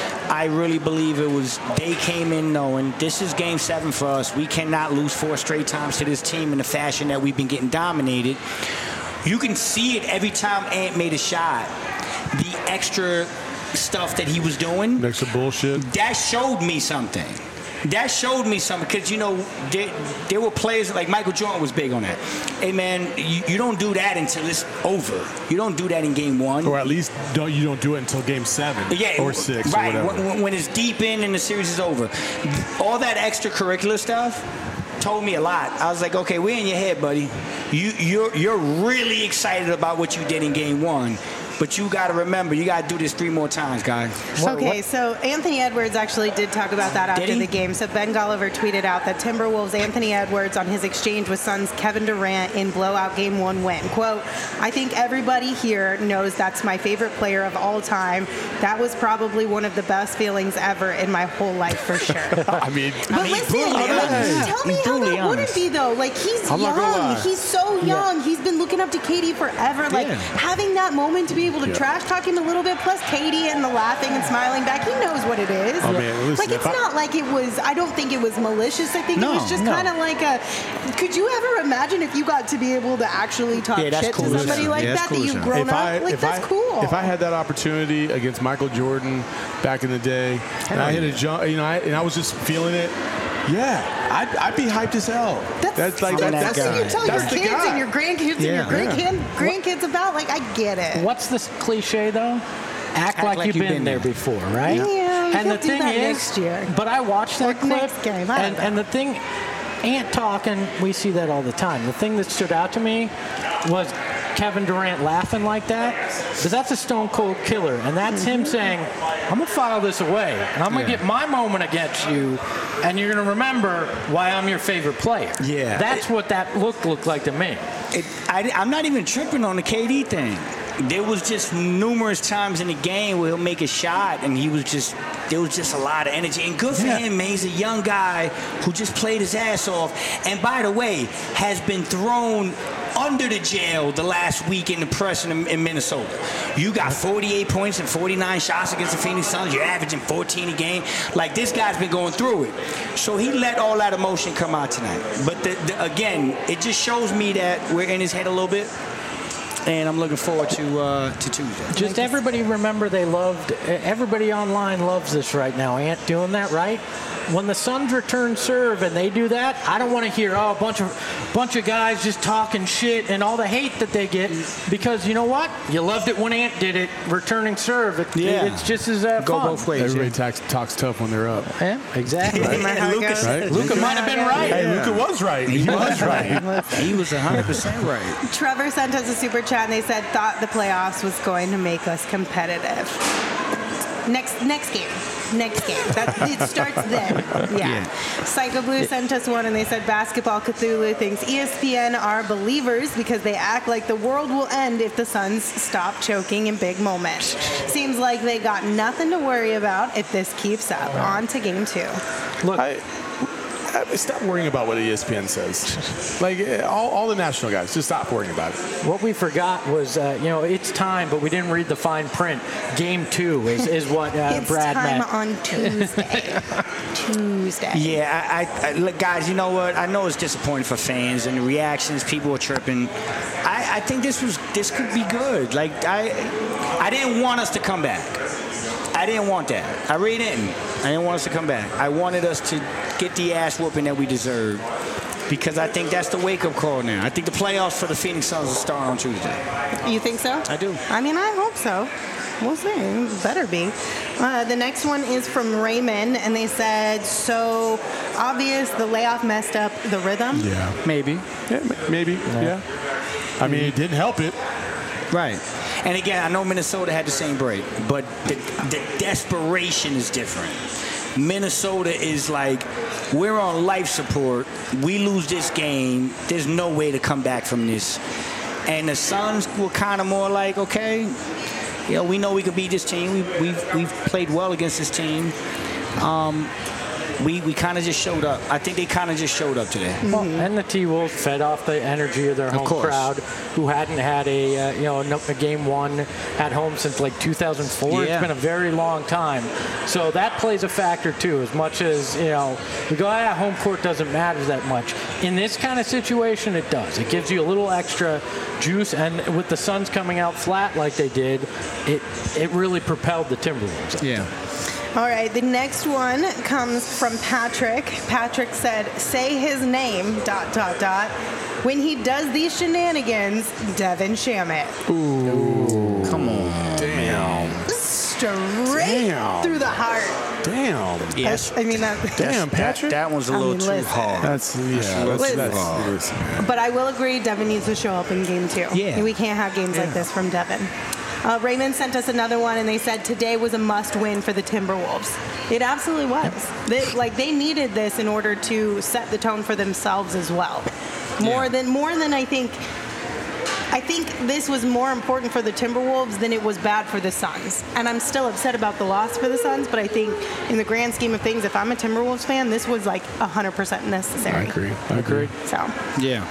I really believe it was they came in knowing this is game seven for us. We cannot lose four straight times to this team in the fashion that we've been getting dominated. You can see it every time Ant made a shot. The extra stuff that he was doing, Next to bullshit. that showed me something. That showed me something because, you know, there, there were players like Michael Jordan was big on that. Hey, man, you, you don't do that until it's over. You don't do that in game one. Or at least don't you don't do it until game seven Yeah, or six right. or whatever. When, when it's deep in and the series is over. All that extracurricular stuff told me a lot. I was like, okay, we're in your head, buddy. You, you're, you're really excited about what you did in game one. But you got to remember, you got to do this three more times, guys. Okay, so Anthony Edwards actually did talk about that after Did he? the game. So Ben Golliver tweeted out that Timberwolves Anthony Edwards on his exchange with Suns Kevin Durant in blowout game one win. Quote, I think everybody here knows that's my favorite player of all time. That was probably one of the best feelings ever in my whole life for sure. I mean, But mean, listen, brutally like, honest. tell me He's how brutally that wouldn't honest. be though. Like he's I'm not gonna lie. young. He's so young. He's been looking up to Katie forever. Like Yeah. having that moment to be able to Yeah. trash talk him a little bit, plus Katie and the laughing and smiling back. He knows what it is. Oh, man, listen, like it's if I- not like it was. I don't think it was malicious. I think No, it was just no. kind of like a. Could you ever imagine if you got to be able to actually talk Yeah, that's shit cool to as somebody hell. like Yeah, that's that cool that as you've hell. grown if I, up? Like if that's I, cool. If I had that opportunity against Michael Jordan back in the day, and I hit a jump, you know, I, and I was just feeling it, yeah, I'd, I'd be hyped as hell. That's, like I'm that, that that's what guy. you tell That's your the kids guy. and your grandkids Yeah. and your grandkid, grandkids about. Like I get it. What's this cliche though? Act, Act like, like you've you've been, been there there. before, right? Yeah, you and the could do thing that is, next year. but I watched that Or clip, next game, I don't and, know. and the thing, Ant talking, we see that all the time. The thing that stood out to me was Kevin Durant laughing like that, because that's a stone cold killer, and that's him saying, "I'm gonna file this away, and I'm gonna Yeah. get my moment against you, and you're gonna remember why I'm your favorite player." Yeah. that's what that look looked like to me. It, I, I'm not even tripping on the K D thing. There was just numerous times in the game where he'll make a shot, and he was just there was just a lot of energy. And good for Yeah. him, man. He's a young guy who just played his ass off. And by the way, has been thrown under the jail the last week in the press in, in Minnesota. You got forty-eight points and forty-nine shots against the Phoenix Suns. You're averaging fourteen a game. Like, this guy's been going through it. So he let all that emotion come out tonight. But the, the, again, it just shows me that we're in his head a little bit. And I'm looking forward to uh, to Tuesday. Just everybody remember they loved, everybody online loves this right now. Ant doing that, right? When the Suns return serve and they do that, I don't want to hear, oh, a bunch of bunch of guys just talking shit and all the hate that they get, because you know what? You loved it when Ant did it, returning serve. It, yeah. It's just as uh, Go fun. both ways. Everybody Yeah. talks, talks tough when they're up. Yeah, exactly. Isn't that how it Luka goes? Right? Luka might have been right. Hey, Luka was right. He was right. He was one hundred percent right. Trevor sent us a super chat and they said, thought the playoffs was going to make us competitive. Next next game. Next game. That, it starts then. Yeah. yeah. Psycho Blue sent us one and they said Basketball Cthulhu thinks E S P N are believers because they act like the world will end if the Suns stop choking in big moments. Seems like they got nothing to worry about if this keeps up. On to game two. Look, I, I, stop worrying about what E S P N says. Like, all, all the national guys, just stop worrying about it. What we forgot was, uh, you know, it's time, but we didn't read the fine print. Game two is, is what uh, it's Brad time meant. on Tuesday. Tuesday. Yeah, I, I, I, look, guys, you know what? I know it's disappointing for fans and the reactions. People are tripping. I, I think this was this could be good. Like, I, I didn't want us to come back. I didn't want that. I really didn't. I didn't want us to come back. I wanted us to get the ass whooping that we deserved, because I think that's the wake-up call now. I think the playoffs for the Phoenix Suns will start on Tuesday. You think so? I do. I mean, I hope so. We'll see. It better be. Uh, the next one is from Raymond, and they said, so obvious the layoff messed up the rhythm. Yeah. Maybe. Yeah, maybe. Yeah. yeah. I mean, it didn't help it. Right. And again, I know Minnesota had the same break, but the, the desperation is different. Minnesota is like, we're on life support. We lose this game. There's no way to come back from this. And the Suns were kind of more like, okay, you know, we know we could beat this team. We, we've, we've played well against this team. Um, we we kind of just showed up. I think they kind of just showed up today. Well, and the T-Wolves fed off the energy of their home course. crowd, who hadn't had a uh, you know a game one at home since like two thousand four. Yeah. It's been a very long time, so that plays a factor too. As much as you know, we go, ah, home court doesn't matter that much. In this kind of situation, it does. It gives you a little extra juice, and with the Suns coming out flat like they did, it it really propelled the Timberwolves. Yeah. All right, the next one comes from Patrick. Patrick said, say his name, dot, dot, dot. When he does these shenanigans, Devin Shamit. Ooh. Come on. Damn. Straight Damn. through the heart. Damn. Yes. I, I mean, that. Damn, Patrick. That, that one's a I little mean, too listen. hard. That's, yeah, that's, Listen. that's, listen, man. But I will agree, Devin needs to show up in game two. Yeah. We can't have games like this from Devin. Uh, Raymond sent us another one, and they said today was a must-win for the Timberwolves. It absolutely was. They, like they needed this in order to set the tone for themselves as well. More Yeah. than more than I think. I think this was more important for the Timberwolves than it was bad for the Suns. And I'm still upset about the loss for the Suns, but I think in the grand scheme of things, if I'm a Timberwolves fan, this was like one hundred percent necessary. I agree. I agree. So. Yeah.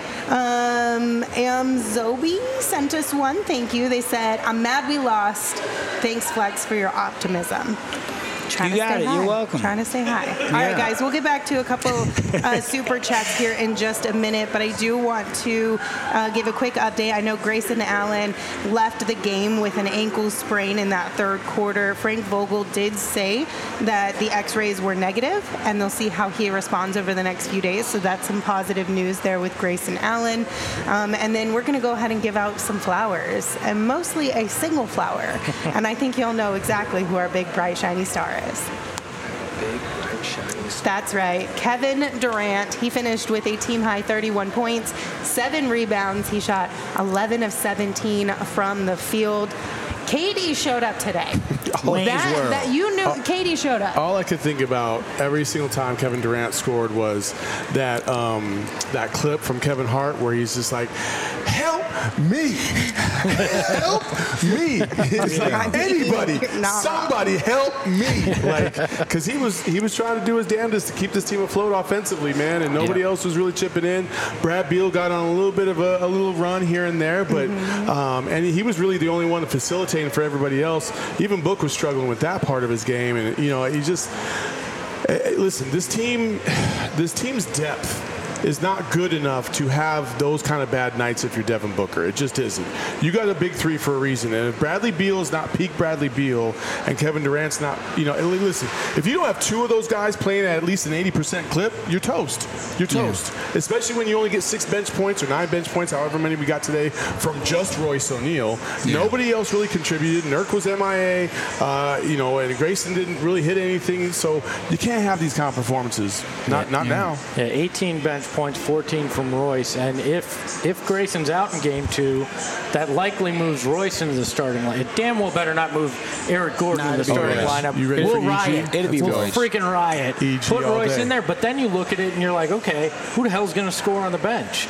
Um, Amzobi sent us one. Thank you. They said, I'm mad we lost. Thanks, Flex, for your optimism. Trying You to got stay it. high. You're welcome. Trying to stay high. All right, guys, we'll get back to a couple uh, super chats here in just a minute, but I do want to uh, give a quick update. I know Grayson Allen left the game with an ankle sprain in that third quarter. Frank Vogel did say that the x-rays were negative, and they'll see how he responds over the next few days, so that's some positive news there with Grayson Allen. Um, and then we're going to go ahead and give out some flowers, and mostly a single flower. And I think you'll know exactly who our big, bright, shiny star is. That's right. Kevin Durant, he finished with a team-high thirty-one points, seven rebounds. He shot eleven of seventeen from the field. Katie showed up today. Wayne's that, World. that you knew Katie showed up. All I could think about every single time Kevin Durant scored was that um, that clip from Kevin Hart where he's just like, help me. Help me. It's like, anybody, Not somebody help me. Like, because he was he was trying to do his damnedest to keep this team afloat offensively, man, and nobody Yeah. else was really chipping in. Brad Beal got on a little bit of a, a little run here and there, but Mm-hmm. um, and he was really the only one facilitating for everybody else. Even Book was struggling with that part of his game, and you know, he just eh, listen. This team, this team's depth is not good enough to have those kind of bad nights if you're Devin Booker. It just isn't. You got a big three for a reason. And if Bradley Beal is not peak Bradley Beal and Kevin Durant's not, you know, listen, if you don't have two of those guys playing at at least an eighty percent clip, you're toast. You're toast. Yeah. Especially when you only get six bench points or nine bench points, however many we got today, from just Royce O'Neal. Yeah. Nobody else really contributed. Nurk was M I A, uh, you know, and Grayson didn't really hit anything. So you can't have these kind of performances. Not, yeah. not yeah. now. Yeah, eighteen bench points, fourteen from Royce, and if if Grayson's out in game two, that likely moves Royce into the starting line. It damn well better not move Eric Gordon Nah, into the oh, starting yes. lineup. You ready we'll for E G? riot. It'll be we'll Royce. freaking riot. E G Put all Royce day. in there, but then you look at it and you're like, okay, who the hell's going to score on the bench?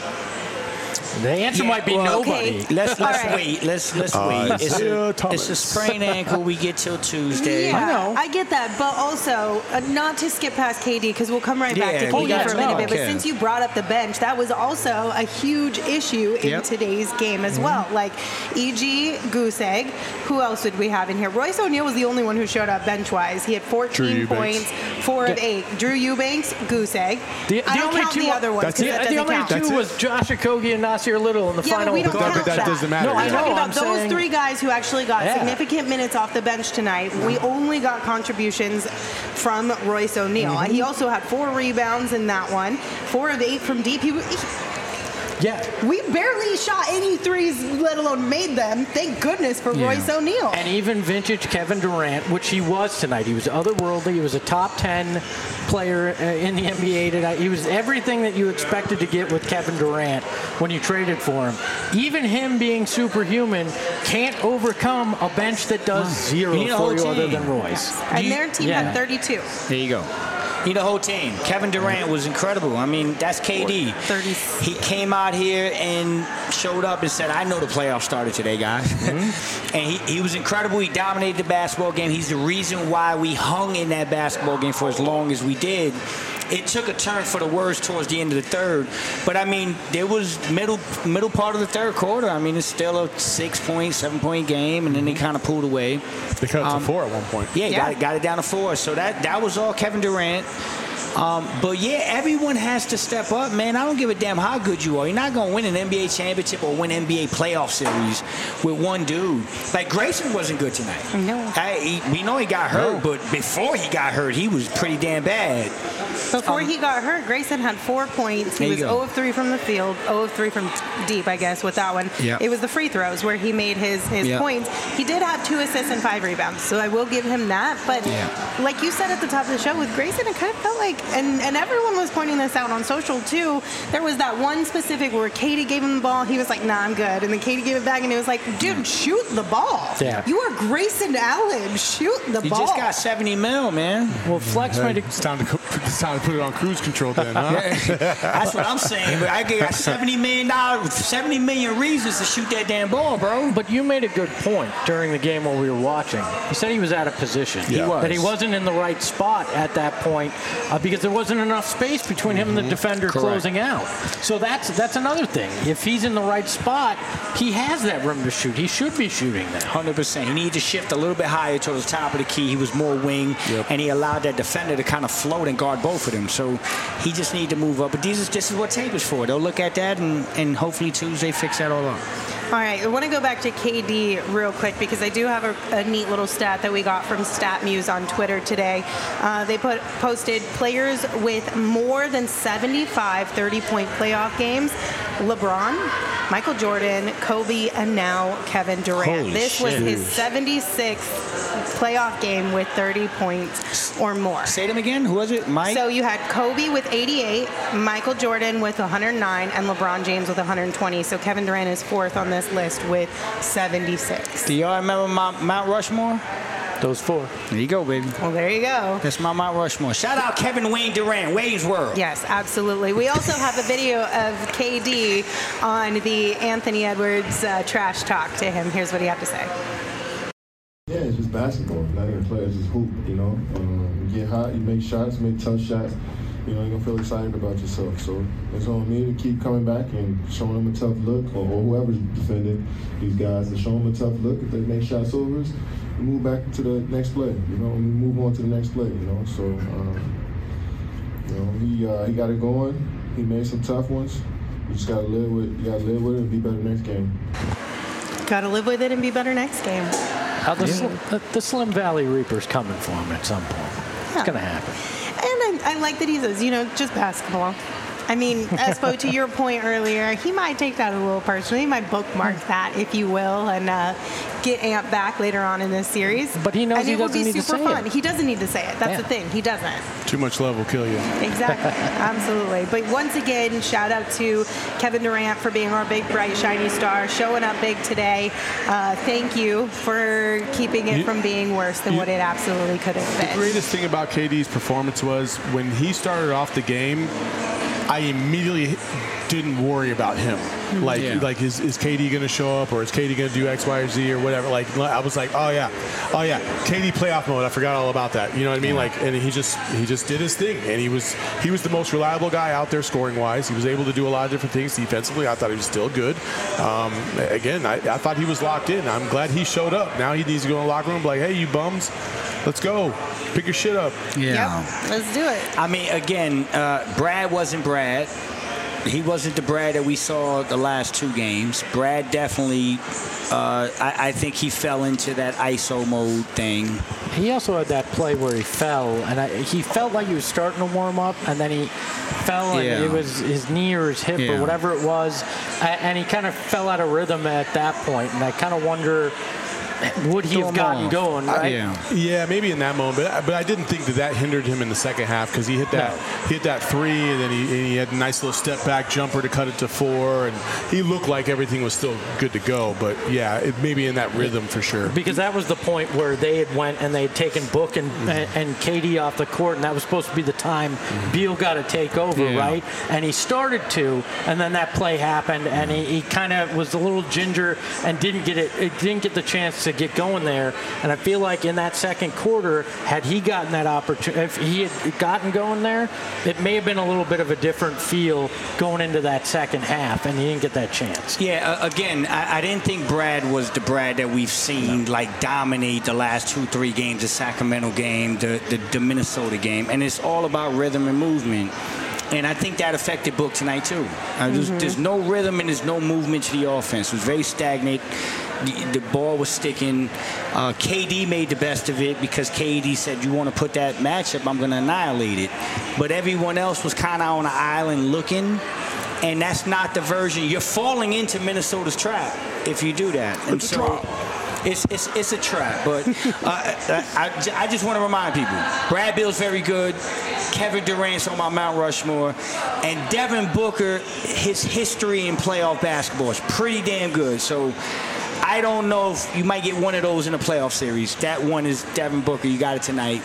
The answer Yeah, might be well, nobody. okay. Let's let's All right. wait. Let's let's Uh, wait. It's Isaiah a, Thomas. it's a sprained ankle. We get till Tuesday. Yeah, I know. I get that, but also uh, not to skip past K D because we'll come right back Yeah, to we K D got for a to. minute No, bit. But okay. since you brought up the bench, that was also a huge issue in Yep. today's game as well. Like E G, Goose Egg. Who else did we have in here? Royce O'Neal was the only one who showed up bench wise. He had fourteen Eubanks. points, four of eight. Drew Eubanks, Goose Egg. The, I the don't only count two, the other ones That's because it. that the doesn't only count. two That's it. was Josh Okogie and Nasir Little in the Yeah, final. but we don't But that- count but that doesn't matter. No, I We're know. talking I'm about those saying, three guys who actually got Yeah. significant minutes off the bench tonight. We only got contributions from Royce O'Neal. Mm-hmm. He also had four rebounds in that one, four of eight from deep. He, he, Yeah. we barely shot any threes, let alone made them. Thank goodness for Yeah. Royce O'Neal. And even vintage Kevin Durant, which he was tonight. He was otherworldly. He was a top ten player uh, in the N B A tonight. He was everything that you expected to get with Kevin Durant when you traded for him. Even him being superhuman can't overcome a bench that does zero You need a for whole you other team. than Royce. And you- their team yeah. had thirty-two. There you go. He the whole team. Kevin Durant was incredible. I mean, that's K D. thirty. He came out here and showed up and said, I know the playoffs started today, guys. Mm-hmm. and he, he was incredible. He dominated the basketball game. He's the reason why we hung in that basketball game for as long as we did. It took a turn for the worse towards the end of the third. But, I mean, there was middle middle part of the third quarter. I mean, it's still a six-point, seven-point game, and then they kind of pulled away. They cut it Um, to four at one point. Yeah, Yeah. Got, it, got it down to four. So that, that was all Kevin Durant. Um, but, yeah, everyone has to step up, man. I don't give a damn how good you are. You're not going to win an N B A championship or win N B A playoff series with one dude. Like, Grayson wasn't good tonight. No. I, he, we know he got hurt, but before he got hurt, he was pretty damn bad. Before Um, he got hurt, Grayson had four points. He There you was go. zero of three from the field, zero of three from t- deep, I guess, with that one. Yeah. It was the free throws where he made his, his Yeah. points. He did have two assists and five rebounds, so I will give him that. But Yeah. like you said at the top of the show, with Grayson, it kind of felt like, and, and everyone was pointing this out on social too, there was that one specific where Katie gave him the ball. He was like, nah, I'm good. And then Katie gave it back, and it was like, dude, shoot the ball. Yeah. You are Grayson Allen. Shoot the He ball. just got seventy mil, man. Well, Flex Hey, made a it's, time to, co- it's time to put it on cruise control then, huh? That's what I'm saying. But I got seventy million dollars, seventy million reasons to shoot that damn ball, bro. But you made a good point during the game while we were watching. You said he was out of position. He was. That he wasn't in the right spot at that point uh, because there wasn't enough space between him and the defender Correct. closing out. So that's that's another thing. If he's in the right spot, he has that room to shoot. He should be shooting that. one hundred percent. He needed to shift a little bit higher towards the top of the key. He was more wing, Yep. and he allowed that defender to kind of float and guard both of them. So he just needed to move up. But these is, this is what tape is for. They'll look at that, and, and hopefully Tuesday fix that all up. All right, I want to go back to K D real quick because I do have a, a neat little stat that we got from StatMuse on Twitter today. Uh, they put posted players with more than seventy-five thirty-point playoff games. LeBron, Michael Jordan, Kobe, and now Kevin Durant. Holy this was shit. his seventy-sixth playoff game with thirty points or more. Say them again. Who was it? Mike? So you had Kobe with eighty-eight, Michael Jordan with one hundred nine, and LeBron James with one hundred twenty. So Kevin Durant is fourth on this list with seventy-six. Do y'all remember Mount, Mount Rushmore? Those four. There you go, baby. Well, there you go. That's my Mount Rushmore. Shout out Kevin Wayne Durant, Wayne's World. Yes, absolutely. We also have a video of K D on the Anthony Edwards uh, trash talk to him. Here's what he had to say. Yeah, it's just basketball. Not even play, it's just hoop, you know. Um, you get hot, you make shots, make tough shots. You know, you're going to feel excited about yourself. So it's on me to keep coming back and showing them a tough look, or, or whoever's defending these guys, to show them a tough look. If they make shots over us, we move back to the next play, you know, and we move on to the next play, you know. So, um, you know, he uh, he got it going. He made some tough ones. You just got to live with you got to live with it and be better next game. Got to live with it and be better next game. How the, yeah. Slim, the, the Slim Valley Reaper's coming for him at some point. Yeah. It's going to happen. And I, I like that he says, you know, just basketball. I mean, Espo, to your point earlier, he might take that a little personally. He might bookmark that, if you will, and uh, get amped back later on in this series. But he knows and he it will doesn't be need super to say fun. it. He doesn't need to say it. That's yeah. the thing. He doesn't. Too much love will kill you. Exactly. Absolutely. But once again, shout out to Kevin Durant for being our big, bright, shiny star, showing up big today. Uh, thank you for keeping it you, from being worse than you, what it absolutely could have been. The greatest thing about K D's performance was when he started off the game, I immediately didn't worry about him. Like, yeah. like is, is K D going to show up, or is K D going to do X, Y, or Z, or whatever? Like, I was like, oh yeah, oh yeah, K D playoff mode. I forgot all about that. You know what I mean? Yeah. Like, and he just he just did his thing, and he was he was the most reliable guy out there scoring wise. He was able to do a lot of different things defensively. I thought he was still good. Um, again, I, I thought he was locked in. I'm glad he showed up. Now he needs to go in the locker room, and be like, hey, you bums, let's go, pick your shit up. Yeah, yep. Let's do it. I mean, again, uh, Brad wasn't Brad. He wasn't the Brad that we saw the last two games. Brad definitely, uh, I, I think he fell into that I S O mode thing. He also had that play where he fell, and I, he felt like he was starting to warm up, and then he fell, and yeah. it was his knee or his hip yeah. or whatever it was, and he kind of fell out of rhythm at that point, and I kind of wonder, would he have gotten off. going, right? Uh, yeah. yeah, maybe in that moment, but I, but I didn't think that that hindered him in the second half, because he hit that no. he hit that three, and then he, and he had a nice little step back jumper to cut it to four, and he looked like everything was still good to go. But yeah, it maybe in that rhythm for sure. Because that was the point where they had went and they had taken Book and mm-hmm. and, and K D off the court, and that was supposed to be the time mm-hmm. Beal got to take over, yeah. right? And he started to, and then that play happened, and he, he kind of was a little ginger and didn't get it, it didn't get the chance to get going there. And I feel like in that second quarter, had he gotten that opportunity, if he had gotten going there, it may have been a little bit of a different feel going into that second half, and he didn't get that chance. Yeah, uh, again, I, I didn't think Brad was the Brad that we've seen no. like dominate the last two, three games, the Sacramento game, the, the, the Minnesota game, and it's all about rhythm and movement. And I think that affected Book tonight, too. Uh, there's, mm-hmm. there's no rhythm and there's no movement to the offense. It was very stagnant. The, the ball was sticking. Uh, K D made the best of it because K D said, you want to put that matchup, I'm going to annihilate it. But everyone else was kind of on an island looking. And that's not the version. You're falling into Minnesota's trap if you do that. And it's so it's, it's, it's a trap. But uh, I, I, I just want to remind people, Brad Beal's very good. Kevin Durant's on my Mount Rushmore. And Devin Booker, his history in playoff basketball is pretty damn good. So I don't know if you might get one of those in a playoff series. That one is Devin Booker. You got it tonight.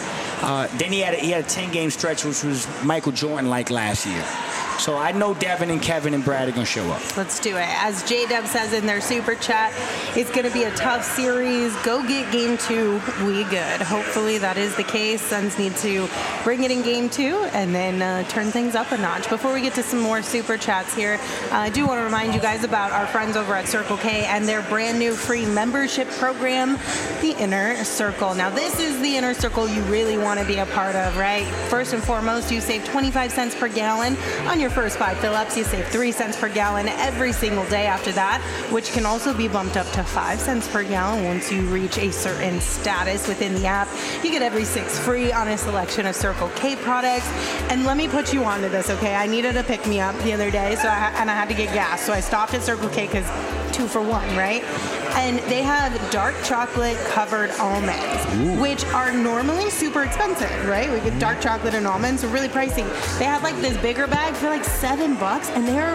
Uh, then he had a, he had a ten-game stretch, which was Michael Jordan-like last year. So I know Devin and Kevin and Brad are going to show up. Let's do it. As J-Dub says in their super chat, it's going to be a tough series. Go get game two. We good. Hopefully that is the case. Suns need to bring it in game two and then uh, turn things up a notch. Before we get to some more super chats here, uh, I do want to remind you guys about our friends over at Circle K and their brand new free membership program, the Inner Circle. Now, this is the Inner Circle you really want to be a part of, right? First and foremost, you save twenty-five cents per gallon on your first five fill-ups. You save three cents per gallon every single day after that, which can also be bumped up to five cents per gallon once you reach a certain status within the app. You get every six free on a selection of Circle K products. And let me put you onto this, okay? I needed a pick-me-up the other day, so I ha- and I had to get gas, so I stopped at Circle K because two for one, right? And they have dark chocolate covered almonds, Ooh. which are normally super expensive, right? We get dark chocolate and almonds, are really pricey. They have like this bigger bag for like seven bucks, and they're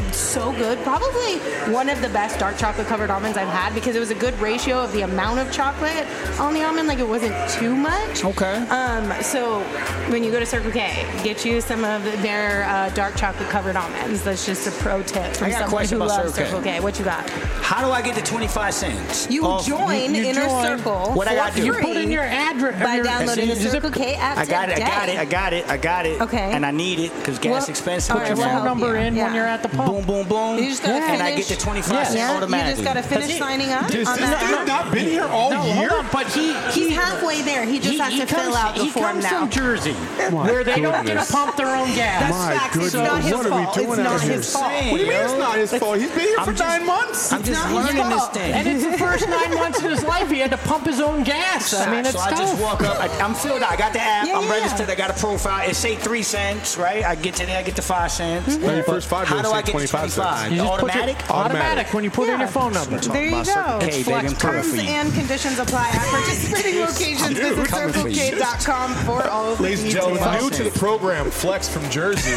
so good. Probably one of the best dark chocolate covered almonds I've had because it was a good ratio of the amount of chocolate on the almond. Like it wasn't too much. Okay. Um, so when you go to Circle K, get you some of their uh, dark chocolate covered almonds. That's just a pro tip from I got a someone question who about loves Circle K. Circle K. What you got? How do I get the twenty-five cents? You Off- join you Inner join. Circle What I for gotta do? You free put in your address by your- downloading the is it- Circle K app I got it. I today. got it. I got it. I got it. Okay. And I need it because gas Well, expensive. all Put right, your we'll phone help number you. in Yeah. when you're at the pump. Boom, boom, boom. You just gotta And I finish- get the twenty-five cents Yeah, automatically. you just got to finish he- signing up This on this that dude app. not been here all No, year? hold on, but he, He's he halfway there. He just he, has he to comes, fill out the he form comes now. from Jersey, My where they don't get goodness. to pump their own gas. That's My facts. goodness, It's not his what are we fault. doing It's out not here? his fault. What do you mean it's not his fault? He's been here I'm for just- nine months. I'm just not his learning this fault. thing. And it's the first nine months of his life he had to pump his own gas. I mean, it's so I tough. just walk up. I, I'm filled out. I got the app. Yeah, I'm yeah. registered. I got a profile. It say three cents, right? I get to there. I get the five cents. Well, your first five How goes do to I get to twenty-five twenty-five? cents. You just put your- Automatic? automatic when you put in Yeah. your phone number. There you About Circle go. K, It's baby. I'm flex coming Terms for you. and conditions apply at participating locations. Visit coming for circle you. k dot com for all of the Ladies and details. gentlemen, new to the program, Flex from Jersey.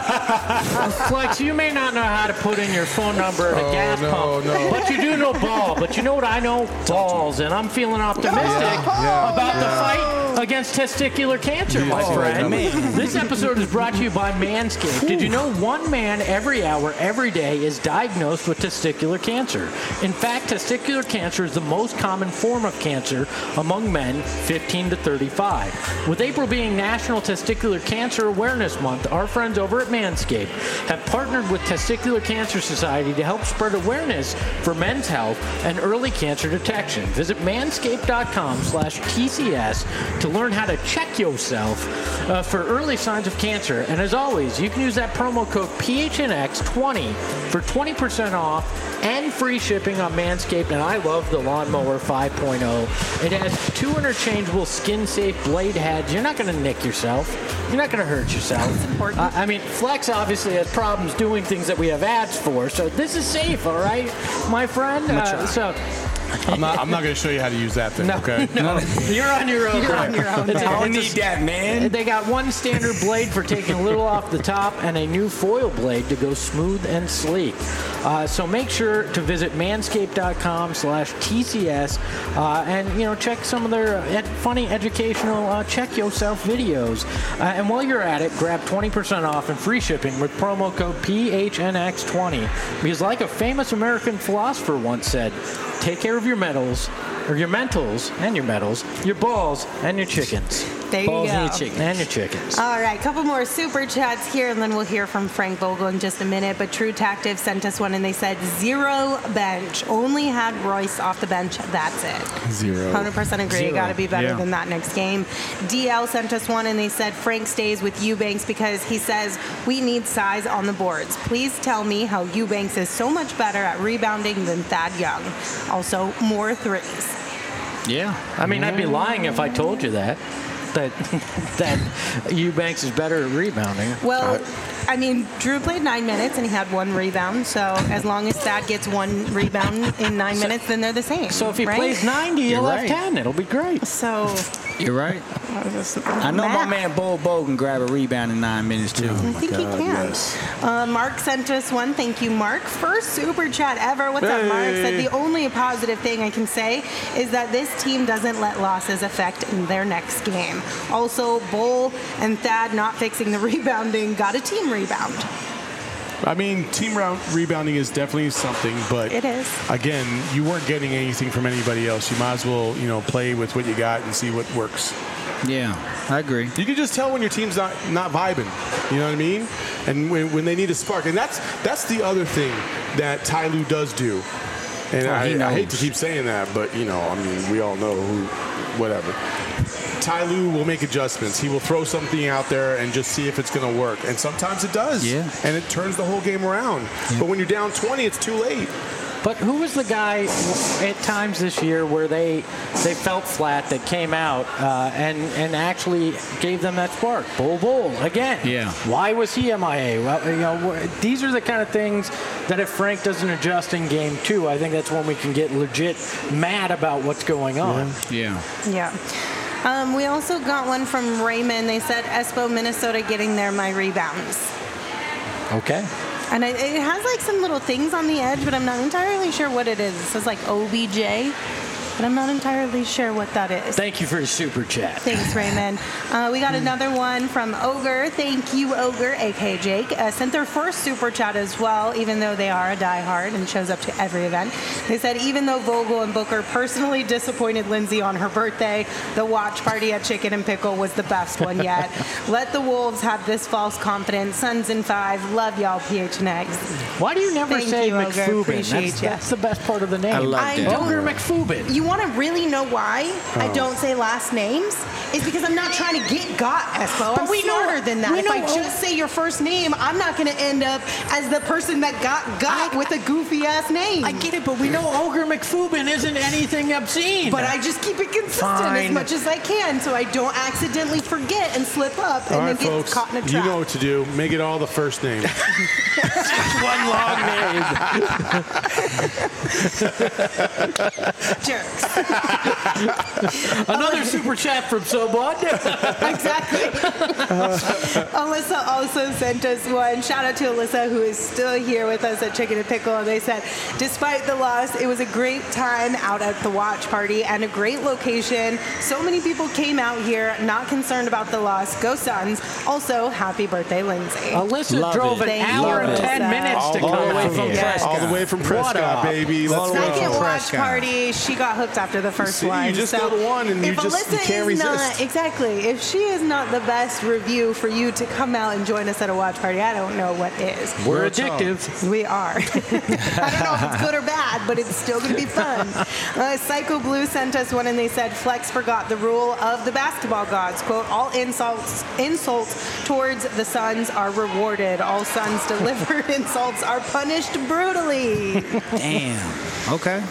Flex, you may not know how to put in your phone number at a Oh, gas no, pump, no. but you do know ball. But you know what I know? Balls. And I'm feeling optimistic yeah, about yeah. the fight against testicular cancer, my Oh, friend. man. This episode is brought to you by Manscaped. Did you know one man every hour, every day is diagnosed with testicular cancer? In fact, testicular cancer is the most common form of cancer among men fifteen to thirty-five. With April being National Testicular Cancer Awareness Month, our friends over at Manscaped have partnered with Testicular Cancer Society to help spread awareness for men's health and early cancer detection. Visit manscaped.com slash TCS to learn how to check yourself uh, for early signs of cancer. And as always, you can use that promo code P H N X twenty for twenty percent off and free shipping on Manscaped. And I love the Lawnmower five point oh. It has two interchangeable skin-safe blade heads. You're not going to nick yourself. You're not going to hurt yourself. That's important. Uh, I mean, Flex obviously has problems doing things that we have ads for, so this is safe, all right, my friend? Uh, so I'm not, I'm not going to show you how to use that thing, no, okay? no, you're on your own. You're on your own, It's a- man. I don't it's a- need that, man. They got one standard blade for taking a little off the top and a new foil blade to go smooth and sleek. Uh, so make sure to visit manscaped.com slash TCS uh, and, you know, check some of their uh, ed- funny educational uh, check yourself videos. Uh, and while you're at it, grab twenty percent off and free shipping with promo code P H N X twenty. Because like a famous American philosopher once said, take care of your metals, or your mentals and your metals, your balls and your chickens. There you Balls go. and your chicken. And your chickens. All right, couple more super chats here, and then we'll hear from Frank Vogel in just a minute. But True Tactive sent us one, and they said zero bench. Only had Royce off the bench. That's it. Zero. one hundred percent agree. Zero. Got to be better Yeah. than that next game. D L sent us one, and they said Frank stays with Eubanks because he says we need size on the boards. Please tell me how Eubanks is so much better at rebounding than Thad Young. Also, more threes. Yeah. I mean, I'd be lying if I told you that. That that Eubanks is better at rebounding. Well, I mean, Drew played nine minutes and he had one rebound. So as long as Thad gets one rebound in nine minutes, then they're the same. So if he right? plays ninety, he'll You're have right. ten. It'll be great. So You're right. I I know my man Bo Bo can grab a rebound in nine minutes, too. I think he can. Uh, Mark sent us one. Thank you, Mark. First super chat ever. What's up, Mark? Said the only positive thing I can say is that this team doesn't let losses affect their next game. Also, Bull and Thad not fixing the rebounding got a team rebound. I mean, team round rebounding is definitely something, but It is. again, you weren't getting anything from anybody else. You might as well, you know, play with what you got and see what works. Yeah, I agree. You can just tell when your team's not, not vibing. You know what I mean? And when, when they need a spark. And that's that's the other thing that Ty Lue does do. And Oh, he I, I hate to knows. keep saying that, but, you know, I mean, we all know who, whatever. Ty Lue will make adjustments. He will throw something out there and just see if it's going to work. And sometimes it does. Yeah. And it turns the whole game around. But when you're down twenty, it's too late. But who was the guy at times this year where they they felt flat, that came out uh, and and actually gave them that spark? Bull Bull again. Yeah. Why was he M I A? Well, you know, these are the kind of things that if Frank doesn't adjust in game two, I think that's when we can get legit mad about what's going on. Yeah. Yeah. Um, we also got one from Raymond. They said Espo, Minnesota getting there, my rebounds. Okay. And it, it has like some little things on the edge, but I'm not entirely sure what it is. It says like O B J. But I'm not entirely sure what that is. Thank you for your super chat. Thanks, Raymond. Uh, we got another one from Ogre. Thank you, Ogre, a k a. Jake. Uh, sent their first super chat as well, even though they are a diehard and shows up to every event. They said, even though Vogel and Booker personally disappointed Lindsay on her birthday, the watch party at Chicken and Pickle was the best one yet. Let the Wolves have this false confidence. Suns in five. Love y'all, P H N X. Why do you never Thank say you, Ogre. McFubin? Appreciate That's, you. that's the best part of the name. I love I that. Ogre McFubin. You want to really know why Oh. I don't say last names? It's because I'm not trying to get got, Espo. I'm But we know- smarter than that. we If I know- just say your first name, I'm not going to end up as the person that got got I- with a goofy ass name. I get it, but we know Ogre McFubin isn't anything obscene. But I just keep it consistent as Fine. much as I can so I don't accidentally forget and slip up and All then right, get folks. caught in a You trap. know what to do. Make it all the first name. one long name. Jerks. Another super chat from Sobot. Exactly. Alyssa also sent us one. Shout out to Alyssa, who is still here with us at Chicken and Pickle. And they said, despite the loss, it was a great time out at the watch party and a great location. So many people came out here, not concerned about the loss. Go Suns. Also, happy birthday, Lindsay. Alyssa Love drove it. an Thank hour you, and ten Alyssa. minutes All to the come way out from here. Prescott. All the way from Prescott, up? baby. Let's All the way go. from Second watch Prescott. party, she got hooked after the first See, you one. just so go to one and you if just- Alyssa you can't is resist. Not, exactly. If she is not the best review for you to come out and join us at a watch party, I don't know what is. We're Real talk. addictive. We are. I don't know if it's good or bad, but it's still going to be fun. Uh, Psycho Blue sent us one, and they said Flex forgot the rule of the basketball gods. Quote, all insults insults towards the Suns are rewarded. All Suns delivered insults are punished brutally. Damn. Okay.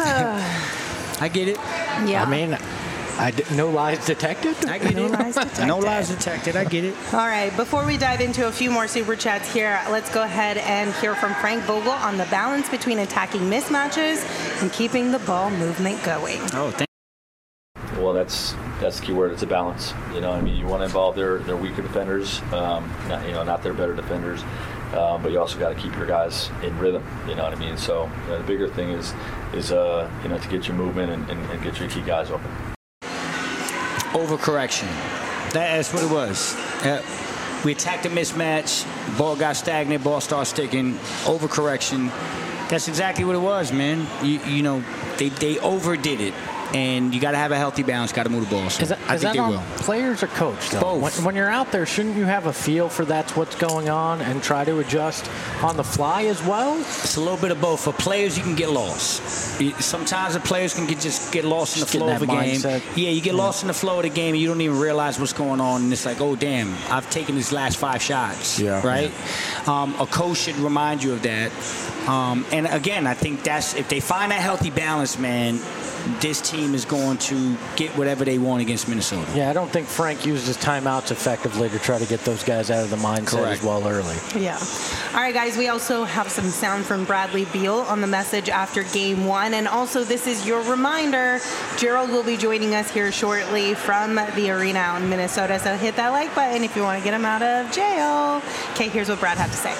I get it. Yeah. I mean, I d- no lies detected. I get No it. lies detected. No lies detected. I get it. All right, before we dive into a few more super chats here, let's go ahead and hear from Frank Vogel on the balance between attacking mismatches and keeping the ball movement going. Oh, thank Well, that's that's the key word. It's a balance. You know, I mean, you want to involve their, their weaker defenders, um, not, you know, not their better defenders, uh, but you also got to keep your guys in rhythm. You know what I mean? So uh, the bigger thing is is uh, you know to get your movement and, and, and get your key guys open. Overcorrection. That's what it was. Uh, we attacked a mismatch. Ball got stagnant. Ball started sticking. Overcorrection. That's exactly what it was, man. You, you know, they, they overdid it. And you got to have a healthy balance. Got to move the ball. So Is that, I is think that they on will. players or coach, though? Both. When, when you're out there, shouldn't you have a feel for that's what's going on and try to adjust on the fly as well? It's a little bit of both. For players, you can get lost. You- Sometimes the players can get, just get lost in the Just get flow of a in that game. mindset. Yeah, you get lost in the flow of the game, and you don't even realize what's going on. And it's like, oh, damn, I've taken these last five shots. Yeah. Right? Um, a coach should remind you of that. Um, and again, I think that's if they find that healthy balance, man, this team is going to get whatever they want against Minnesota. Yeah, I don't think Frank used his timeouts effectively to try to get those guys out of the mindset Correct. as well early. Yeah. All right, guys, we also have some sound from Bradley Beal on the message after game one. And also, this is your reminder, Gerald will be joining us here shortly from the arena out in Minnesota. So hit that like button if you want to get him out of jail. Okay, here's what Brad had to say.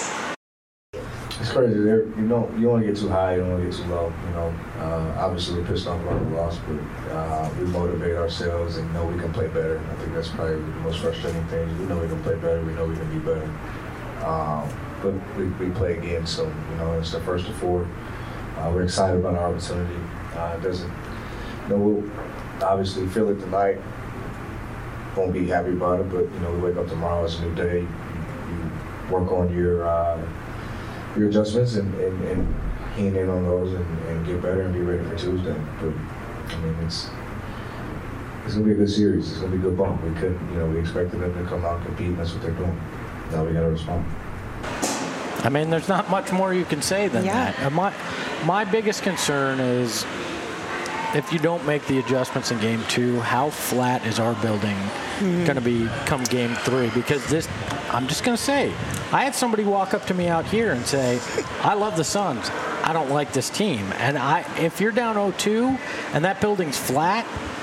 It's crazy. They're, you know, you don't want to get too high, you don't want to get too low. You know, uh, obviously we're pissed off about the loss, but uh, we motivate ourselves and know we can play better. I think that's probably the most frustrating thing. We know we can play better. We know we can be better. Um, but we, we play again, so you know it's the first of four. Uh, we're excited about our opportunity. Uh, it doesn't, you know, we'll obviously feel it tonight. Won't be happy about it, but you know, we wake up tomorrow. It's a new day. You, you work on your. Uh, your adjustments and, and, and keying in on those and, and get better and be ready for Tuesday. But I mean, it's it's gonna be a good series. It's gonna be a good bump. We couldn't, you know, we expected them to come out and compete, and that's what they're doing. Now we gotta respond. I mean, there's not much more you can say than Yeah. that. And my, my biggest concern is if you don't make the adjustments in game two, how flat is our building mm-hmm. going to be come game three? Because this, I'm just going to say, I had somebody walk up to me out here and say, I love the Suns. I don't like this team. And I, if you're down oh two and that building's flat,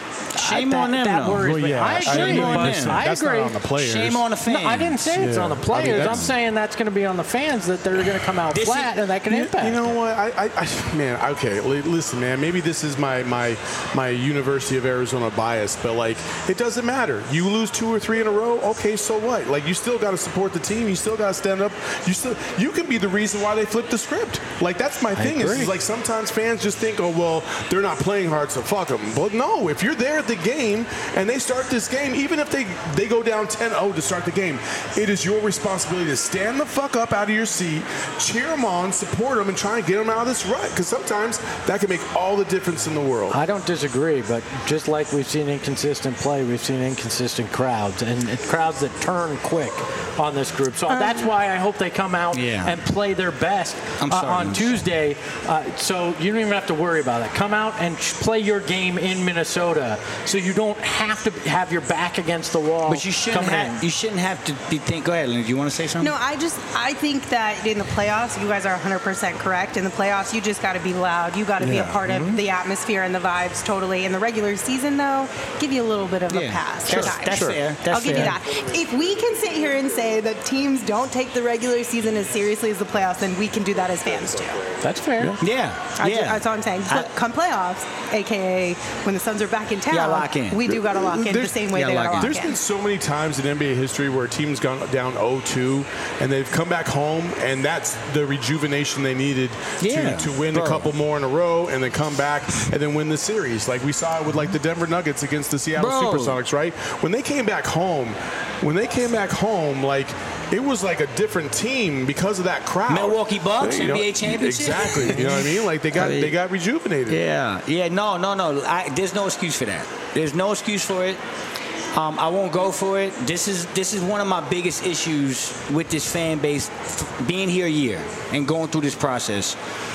Shame that, on them, that though. worries Well, me. yeah, I I agree. Shame on but them. I That's agree. not on the players. Shame on the fans. No, I didn't say it's Yeah. on the I mean, players. I'm that's- saying that's going to be on the fans, that they're going to come out This flat is- and that can You, impact. you know what? I, I, I man, okay. li- Listen, man. Maybe this is my my my University of Arizona bias, but like, it doesn't matter. You lose two or three in a row. Okay, so what? Like, you still got to support the team. You still got to stand up. You still you can be the reason why they flipped the script. Like, that's my thing. Is, is like sometimes fans just think, oh well, they're not playing hard, so fuck them. But no, if you're there at the game and they start this game, even if they they go down ten oh to start the game, it is your responsibility to stand the fuck up out of your seat, cheer them on, support them, and try and get them out of this rut. Because sometimes that can make all the difference in the world. I don't disagree, but just like we've seen inconsistent play, we've seen inconsistent crowds, and and crowds that turn quick on this group. So that's why I hope they come out Yeah. and play their best I'm uh, sorry, on I'm Tuesday. Uh, so you don't even have to worry about that. Come out and ch- play your game in Minnesota, so you don't have to have your back against the wall. But you shouldn't coming have. in. You shouldn't have to be think. Go ahead, Lynn. Do you want to say something? No, I just I think that in the playoffs, you guys are one hundred percent correct. In the playoffs, you just got to be loud. You got to be a Yeah. part of the atmosphere and the vibes totally. In the regular season, though, give you a little bit of a Yeah. pass. Sure. Guys. That's fair. That's I'll give you fair. that. If we can sit here and say that teams don't take the regular season as seriously as the playoffs, then we can do that as fans too. That's fair. Yeah. I ju- Yeah. that's all I'm saying. I- But come playoffs, aka when the Suns are back in town, Yeah, lock in. we do got to lock in the There's- same way yeah, they got to lock in. lock There's in. been so many times in N B A history where a team's gone down oh two and they've come back home, and that's the rejuvenation they needed Yeah, to, to win bro. a couple more in a row and then come back and then win the series. Like we saw it with like the Denver Nuggets against the Seattle Bro. Supersonics, right? When they came back home, when they came back home, like it was like a different team because of that crowd. Milwaukee Bucks, You know, N B A championship. Exactly. You know what I mean? Like they got I mean- they got rejuvenated. Yeah, yeah, no, no, no. I, there's no excuse for that. There's no excuse for it. Um, I won't go for it. This is this is one of my biggest issues with this fan base, f- being here a year and going through this process.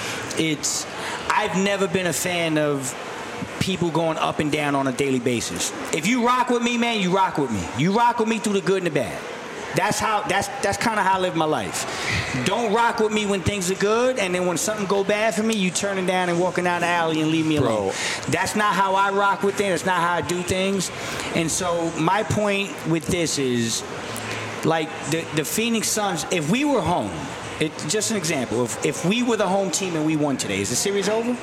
It's I've never been a fan of people going up and down on a daily basis. If you rock with me, man, you rock with me. You rock with me through the good and the bad. That's how. That's that's kind of how I live my life. Don't rock with me when things are good, and then when something go bad for me, you turning down and walking down the alley and leave me Bro. alone. That's not how I rock with things. That's not how I do things. And so my point with this is, like the the Phoenix Suns. If we were home, it's just an example. If if we were the home team and we won today, is the series over?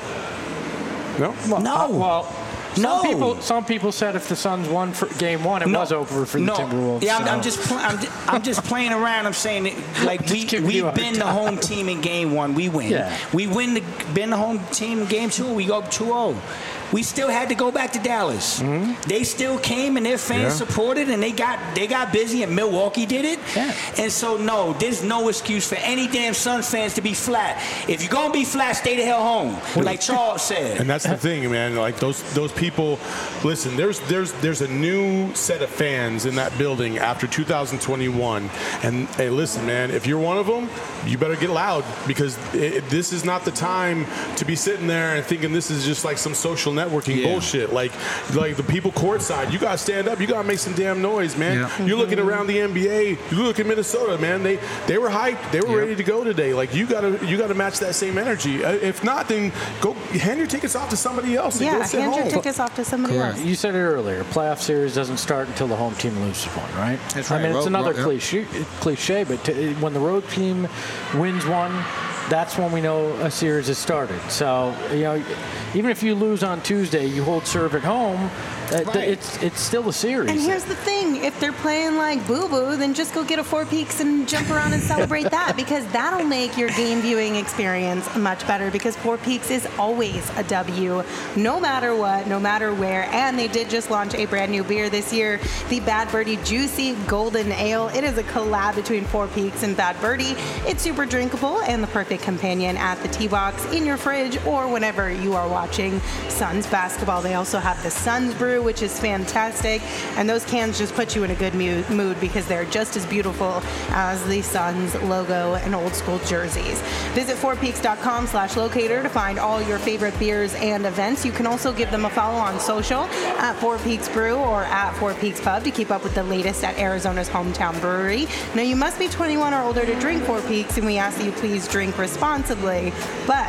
No? No. Uh, well, some No. people some people said if the Suns won for game one, it was over for the no. Timberwolves. Yeah, I'm, I'm so- just pl- I'm, just, I'm just playing around. I'm saying that, like we Just giving you a we've been the home team in game one. We win. Yeah. We win the been the home team in game two. We go up two oh. We still had to go back to Dallas. They still came and their fans Yeah. supported, and they got they got busy, and Milwaukee did it. Yeah. And so no, there's no excuse for any damn Suns fans to be flat. If you're gonna be flat, stay the hell home, like Charles said. And that's the thing, man. Like those those people. Listen, there's there's there's a new set of fans in that building after two thousand twenty-one. And hey, listen, man, if you're one of them, you better get loud, because it, this is not the time to be sitting there and thinking this is just like some social networking Yeah. bullshit. Like like the people courtside, you gotta stand up. You gotta make some damn noise, man. Yeah. You're looking around the N B A. You look at Minnesota, man. They they were hyped. They were Yep. ready to go today. Like you gotta you gotta match that same energy. Uh, If not, then go hand your tickets off to somebody else. And Yeah, go sit hand your home. tickets off to somebody else. You said it earlier. Playoff series doesn't start until the home team loses one, right? That's I right. mean, it's Road- another road- yeah. cliche, cliche, but t- when the road team wins one, that's when we know a series has started. So, you know, even if you lose on Tuesday, you hold serve at home. Uh, th- Right. It's it's still a series. And here's the thing: if they're playing like Boo Boo, then just go get a Four Peaks and jump around and celebrate that, because that'll make your game viewing experience much better. Because Four Peaks is always a W, no matter what, no matter where. And they did just launch a brand new beer this year, the Bad Birdie Juicy Golden Ale. It is a collab between Four Peaks and Bad Birdie. It's super drinkable and the perfect companion at the tee box, in your fridge, or whenever you are watching Suns basketball. They also have the Suns Brew, which is fantastic, and those cans just put you in a good mu- mood because they're just as beautiful as the Suns logo and old school jerseys. Visit four peaks dot com slash locator to find all your favorite beers and events. You can also give them a follow on social at Four Peaks Brew or at Four Peaks Pub to keep up with the latest at Arizona's hometown brewery. Now, you must be twenty-one or older to drink Four Peaks, and we ask that you please drink responsibly, but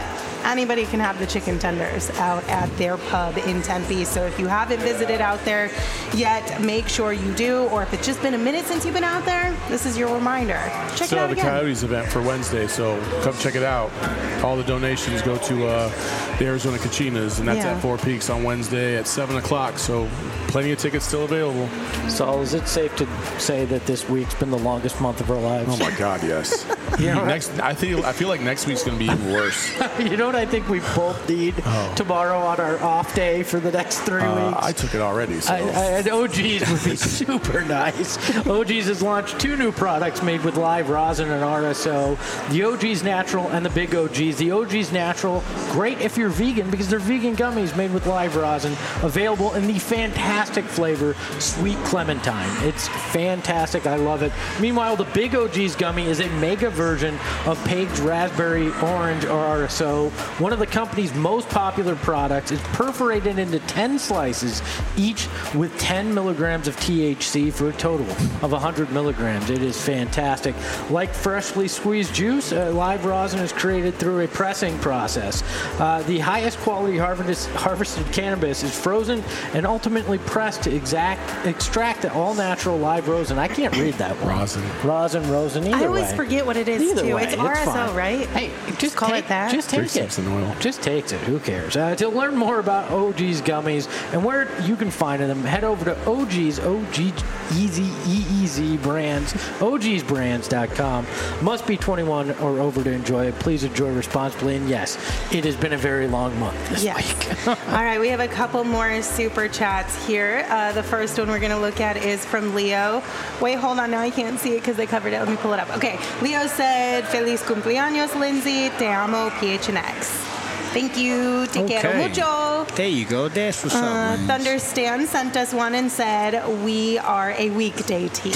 anybody can have the chicken tenders out at their pub in Tempe. So if you haven't visited out there yet, make sure you do. Or if it's just been a minute since you've been out there, this is your reminder. Check Still it out have the again. Coyotes event for Wednesday, so come check it out. All the donations go to uh, the Arizona Cachinas, and that's Yeah. at Four Peaks on Wednesday at seven o'clock. So plenty of tickets still available. So is it safe to say that this week's been the longest month of our lives? Oh my God, yes. yeah. Next, I feel I feel like next week's going to be even worse. You know what I think we both need Oh. tomorrow on our off day for the next three Uh, weeks? I took it already. So. I, I, and O G's would be super nice. O G's has launched two new products made with live rosin and R S O. The O G's Natural and the Big O G's. The O G's Natural, great if you're vegan because they're vegan gummies made with live rosin, available in the fantastic flavor Sweet Clementine. It's fantastic. I love it. Meanwhile, the Big O G's gummy is a mega version of Page's Raspberry Orange or R S O. One of the company's most popular products is perforated into ten slices, each with ten milligrams of T H C for a total of one hundred milligrams. It is fantastic. Like freshly squeezed juice, uh, live rosin is created through a pressing process. Uh, the highest quality harvest, harvested cannabis is frozen and ultimately pressed to exact, extract the all-natural live rosin. I can't read that one. Rosin. Rosin, rosin, either I always way. forget what it is, Either too. way, It's R S O, fine. right? Hey, just call take, it that? Just Three take it. sips in oil. Just takes it. Who cares? Uh, to learn more about O G's gummies and where you can find them, head over to O G's, O G E Z E E Z brands, O Gs brands dot com. Must be twenty-one or over to enjoy it. Please enjoy responsibly. And yes, it has been a very long month this Yes. week. All right, we have a couple more super chats here. Uh, the first one we're going to look at is from Leo. Wait, hold on. Now I can't see it because they covered it. Let me pull it up. Okay. Leo said, Feliz cumpleaños, Lindsay. Te amo, P H N X. Thank you. Te quiero Okay. mucho. There you go. That's what's Uh, up, man. Thunder Stan sent us one and said, we are a weekday team.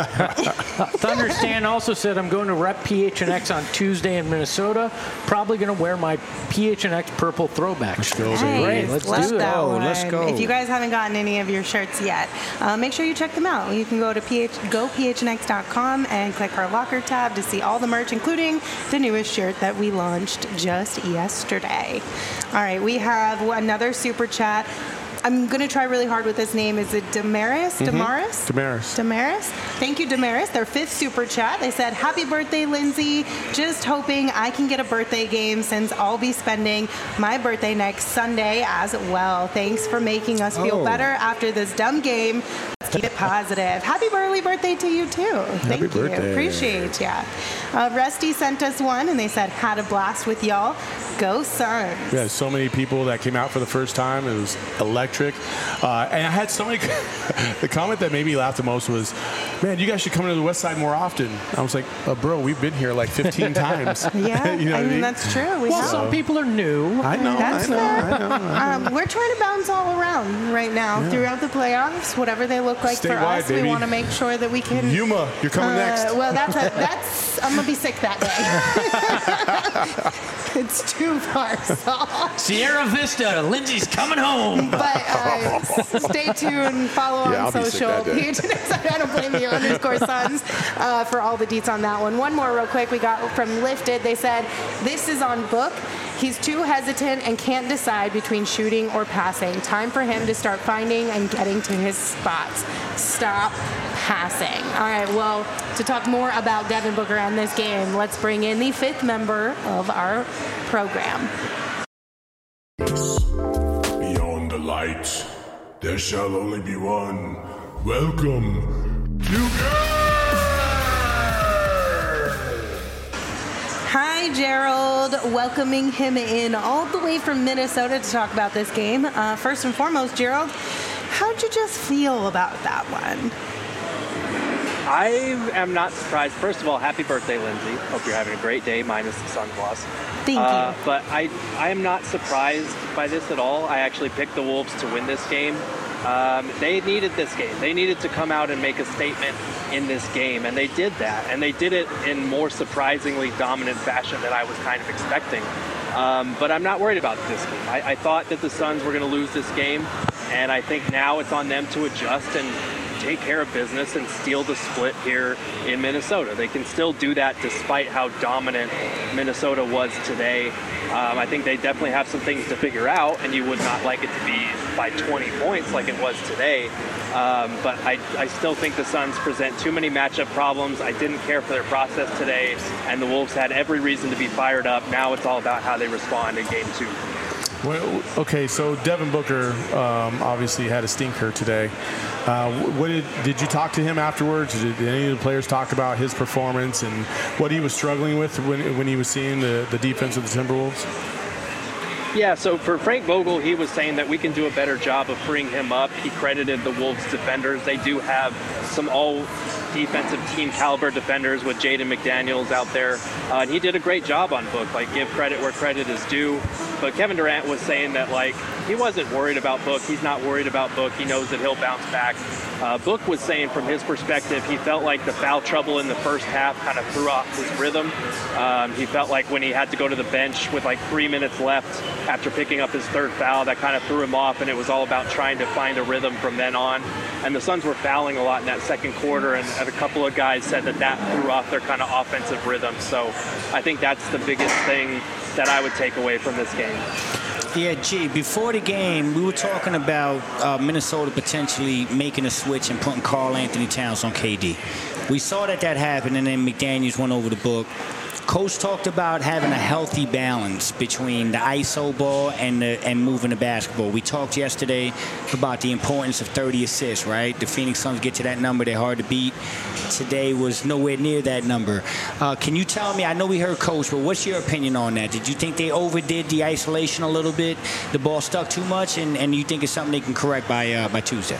Thunder Stan also said, I'm going to rep P H N X on Tuesday in Minnesota. Probably going to wear my P H N X purple throwback. Let's go, shirt. baby. Great. Nice. Let's Love do it. that Oh, one. let's go. If you guys haven't gotten any of your shirts yet, uh, make sure you check them out. You can go to P H, go P H N X dot com and click our locker tab to see all the merch, including the newest shirt that we launched just yesterday. All right, we have another super chat. I'm going to try really hard with this name. Is it Damaris? Damaris? Damaris. Damaris. Thank you, Damaris. Their fifth super chat. They said, happy birthday, Lindsay. Just hoping I can get a birthday game since I'll be spending my birthday next Sunday as well. Thanks for making us feel Oh. better after this dumb game. Let's keep it positive. Happy early birthday to you, too. Thank you. birthday. Appreciate ya. Uh, Rusty sent us one, and they said, had a blast with y'all. Go Suns. We had so many people that came out for the first time. It was electric. Uh, and I had so many. The comment that made me laugh the most was, man, you guys should come to the West Side more often. I was like, oh, bro, we've been here like fifteen times. Yeah, you know I what mean, that's true. We Well, have. some people are new. I know, That's I know, fair. I know. I know. Um, we're trying to bounce all around right now throughout the playoffs, whatever they look like for Statewide, us. We baby. want to make sure that we can. Yuma, you're coming uh, next. Well, that's a, that's. I'm gonna be sick that day. It's too far, so. Sierra Vista, Lindsay's coming home. But uh, s- stay tuned. Follow Yeah, on I'll be sick social. that day. P H N X, I don't blame you. Underscore Suns uh, for all the deets on that one. One more real quick. We got from Lifted. They said this is on book. He's too hesitant and can't decide between shooting or passing. Time for him to start finding and getting to his spots. Stop passing. All right, well, to talk more about Devin Booker and this game, let's bring in the fifth member of our program. Beyond the light, there shall only be one. Welcome to Hi, Gerald. Welcoming him in all the way from Minnesota to talk about this game. Uh, first and foremost, Gerald, how'd you just feel about that one? I am not surprised. First of all, happy birthday, Lindsay. Hope you're having a great day, minus the sun loss. Thank Uh, you. but I, I am not surprised by this at all. I actually picked the Wolves to win this game. Um, they needed this game. They needed to come out and make a statement in this game, and they did that. And they did it in more surprisingly dominant fashion than I was kind of expecting. Um, but I'm not worried about this game. I, I thought that the Suns were going to lose this game, and I think now it's on them to adjust and take care of business and steal the split here in Minnesota. They can still do that despite how dominant Minnesota was today. Um, I think they definitely have some things to figure out, and you would not like it to be by twenty points like it was today. Um, but I, I still think the Suns present too many matchup problems. I didn't care for their process today, and the Wolves had every reason to be fired up. Now it's all about how they respond in game two. Well, okay, so Devin Booker um, obviously had a stinker today. Uh, what did, did you talk to him afterwards? Did, did any of the players talk about his performance and what he was struggling with when, when he was seeing the, the defense of the Timberwolves? Yeah, so for Frank Vogel, he was saying that we can do a better job of freeing him up. He credited the Wolves defenders. They do have some all defensive team caliber defenders with Jaden McDaniels out there. Uh, and he did a great job on Book, like give credit where credit is due. But Kevin Durant was saying that like he wasn't worried about Book. He's not worried about Book. He knows that he'll bounce back. Uh, Book was saying from his perspective, he felt like the foul trouble in the first half kind of threw off his rhythm. Um, he felt like when he had to go to the bench with like three minutes left after picking up his third foul, that kind of threw him off, and it was all about trying to find a rhythm from then on. And the Suns were fouling a lot in that second quarter, and, and a couple of guys said that that threw off their kind of offensive rhythm. So I think that's the biggest thing that I would take away from this game. Yeah, G, before the game, we were talking about uh, Minnesota potentially making a switch and putting Karl Anthony Towns on K D. We saw that that happened, and then McDaniels went over the Book. Coach talked about having a healthy balance between the I S O ball and the, and moving the basketball. We talked yesterday about the importance of thirty assists, right? The Phoenix Suns get to that number, they're hard to beat. Today was nowhere near that number. Uh, can you tell me, I know we heard Coach, but what's your opinion on that? Did you think they overdid the isolation a little bit? The ball stuck too much, and, and you think it's something they can correct by uh, by Tuesday?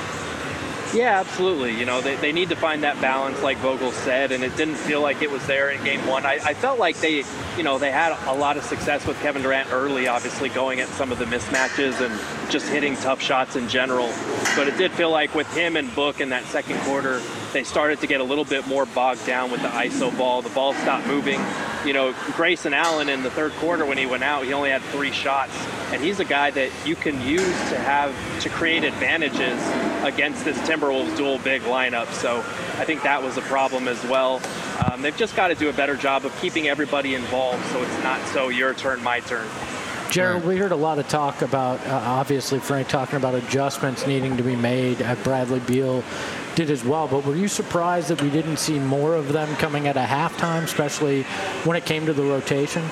Yeah, absolutely. You know, they, they need to find that balance, like Vogel said, and it didn't feel like it was there in game one. I, I felt like they, you know, they had a lot of success with Kevin Durant early, obviously going at some of the mismatches and just hitting tough shots in general. But it did feel like with him and Book in that second quarter, they started to get a little bit more bogged down with the I S O ball. The ball stopped moving. You know, Grayson Allen in the third quarter when he went out, he only had three shots. And he's a guy that you can use to have to create advantages against this Timberwolves dual big lineup. So I think that was a problem as well. Um, they've just got to do a better job of keeping everybody involved so it's not so your turn, my turn. Gerald, we heard a lot of talk about, uh, obviously, Frank talking about adjustments needing to be made. Uh, Bradley Beal did as well, but were you surprised that we didn't see more of them coming at a halftime, especially when it came to the rotation?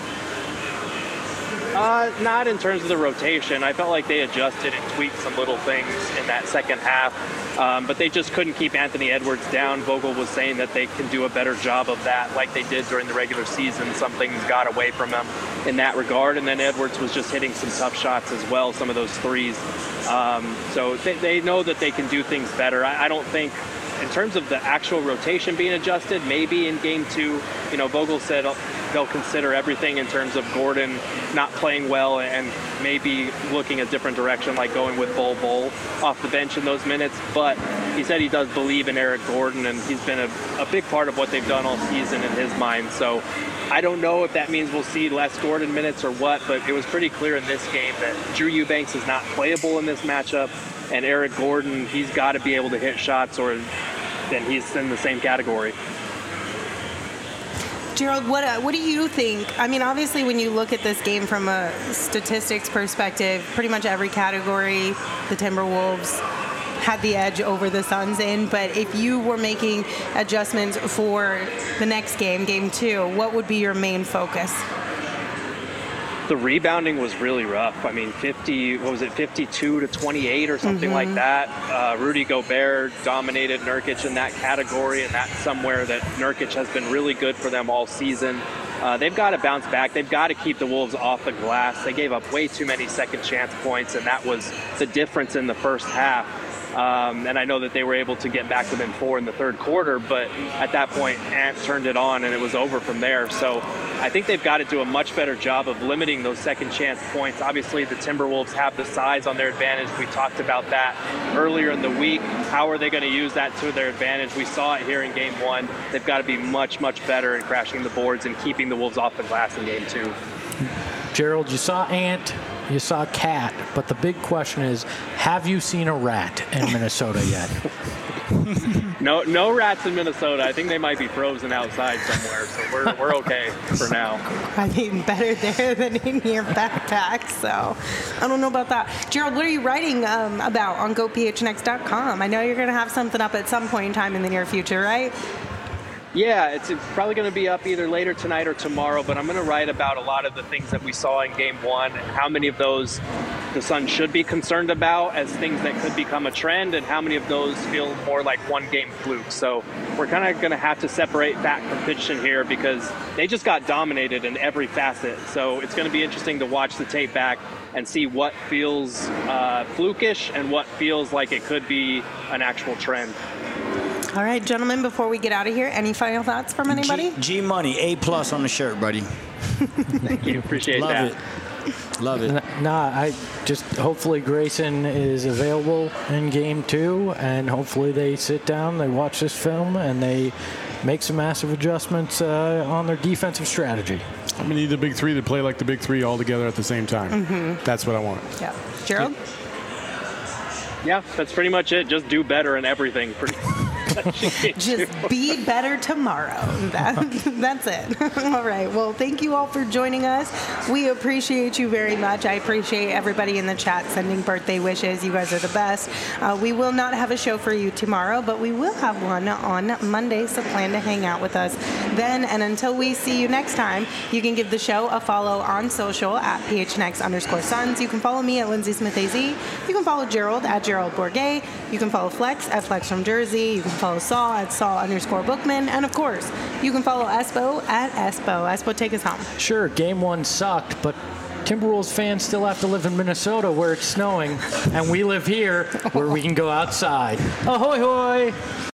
Uh, not in terms of the rotation. I felt like they adjusted and tweaked some little things in that second half, um, but they just couldn't keep Anthony Edwards down. Vogel was saying that they can do a better job of that like they did during the regular season. Some things got away from them in that regard, and then Edwards was just hitting some tough shots as well, some of those threes. Um, so they, they know that they can do things better. I, I don't think in terms of the actual rotation being adjusted, maybe in game two, you know, Vogel said they'll consider everything in terms of Gordon not playing well and maybe looking a different direction, like going with Bol Bol off the bench in those minutes. But he said he does believe in Eric Gordon, and he's been a, a big part of what they've done all season in his mind. So I don't know if that means we'll see less Gordon minutes or what, but it was pretty clear in this game that Drew Eubanks is not playable in this matchup, and Eric Gordon, he's got to be able to hit shots or then he's in the same category. Gerald, what uh, what do you think? I mean, obviously, when you look at this game from a statistics perspective, pretty much every category, the Timberwolves had the edge over the Suns in. But if you were making adjustments for the next game, game two, what would be your main focus? The rebounding was really rough. I mean, fifty, what was it, fifty-two to twenty-eight or something mm-hmm. like that. Uh, Rudy Gobert dominated Nurkic in that category, and that's somewhere that Nurkic has been really good for them all season. Uh, they've got to bounce back. They've got to keep the Wolves off the glass. They gave up way too many second chance points, and that was the difference in the first half. Um, and I know that they were able to get back within four in the third quarter, but at that point, Ant turned it on and it was over from there. So I think they've got to do a much better job of limiting those second chance points. Obviously, the Timberwolves have the size on their advantage. We talked about that earlier in the week. How are they going to use that to their advantage? We saw it here in game one. They've got to be much, much better in crashing the boards and keeping the Wolves off the glass in game two. Gerald, you saw Ant, you saw Cat, but the big question is, have you seen a rat in Minnesota yet? No, no rats in Minnesota. I think they might be frozen outside somewhere, so we're we're okay for now. I mean, better there than in your backpack. So, I don't know about that. Gerald, what are you writing um, about on Go P H N X dot com? I know you're going to have something up at some point in time in the near future, right? Yeah, it's probably going to be up either later tonight or tomorrow, but I'm going to write about a lot of the things that we saw in game one, how many of those the Suns should be concerned about as things that could become a trend, and how many of those feel more like one-game flukes. So we're kind of going to have to separate fact from fiction here because they just got dominated in every facet. So it's going to be interesting to watch the tape back and see what feels uh, flukish and what feels like it could be an actual trend. All right, gentlemen, before we get out of here, any final thoughts from anybody? G, G Money, A plus on the shirt, buddy. Thank you. Appreciate Love that. it. Love it. Nah, I just hopefully Grayson is available in game two, and hopefully they sit down, they watch this film, and they make some massive adjustments uh, on their defensive strategy. I'm gonna need the big three to play like the big three all together at the same time. Mm-hmm. That's what I want. Yeah, Gerald. Yeah, that's pretty much it. Just do better in everything. Pretty Just be better tomorrow. That, that's it. All right. Well, thank you all for joining us. We appreciate you very much. I appreciate everybody in the chat sending birthday wishes. You guys are the best. Uh, we will not have a show for you tomorrow, but we will have one on Monday, so plan to hang out with us then. And until we see you next time, you can give the show a follow on social at P H N X underscore Suns. You can follow me at Lindsay Smith A Z. You can follow Gerald at Gerald Bourget. You can follow Flex at Flex from Jersey. You can follow Saul at Saul underscore Bookman. And of course, you can follow Espo at Espo. Espo, take us home. Sure, game one sucked, but Timberwolves fans still have to live in Minnesota where it's snowing, and we live here where we can go outside. Ahoy hoy!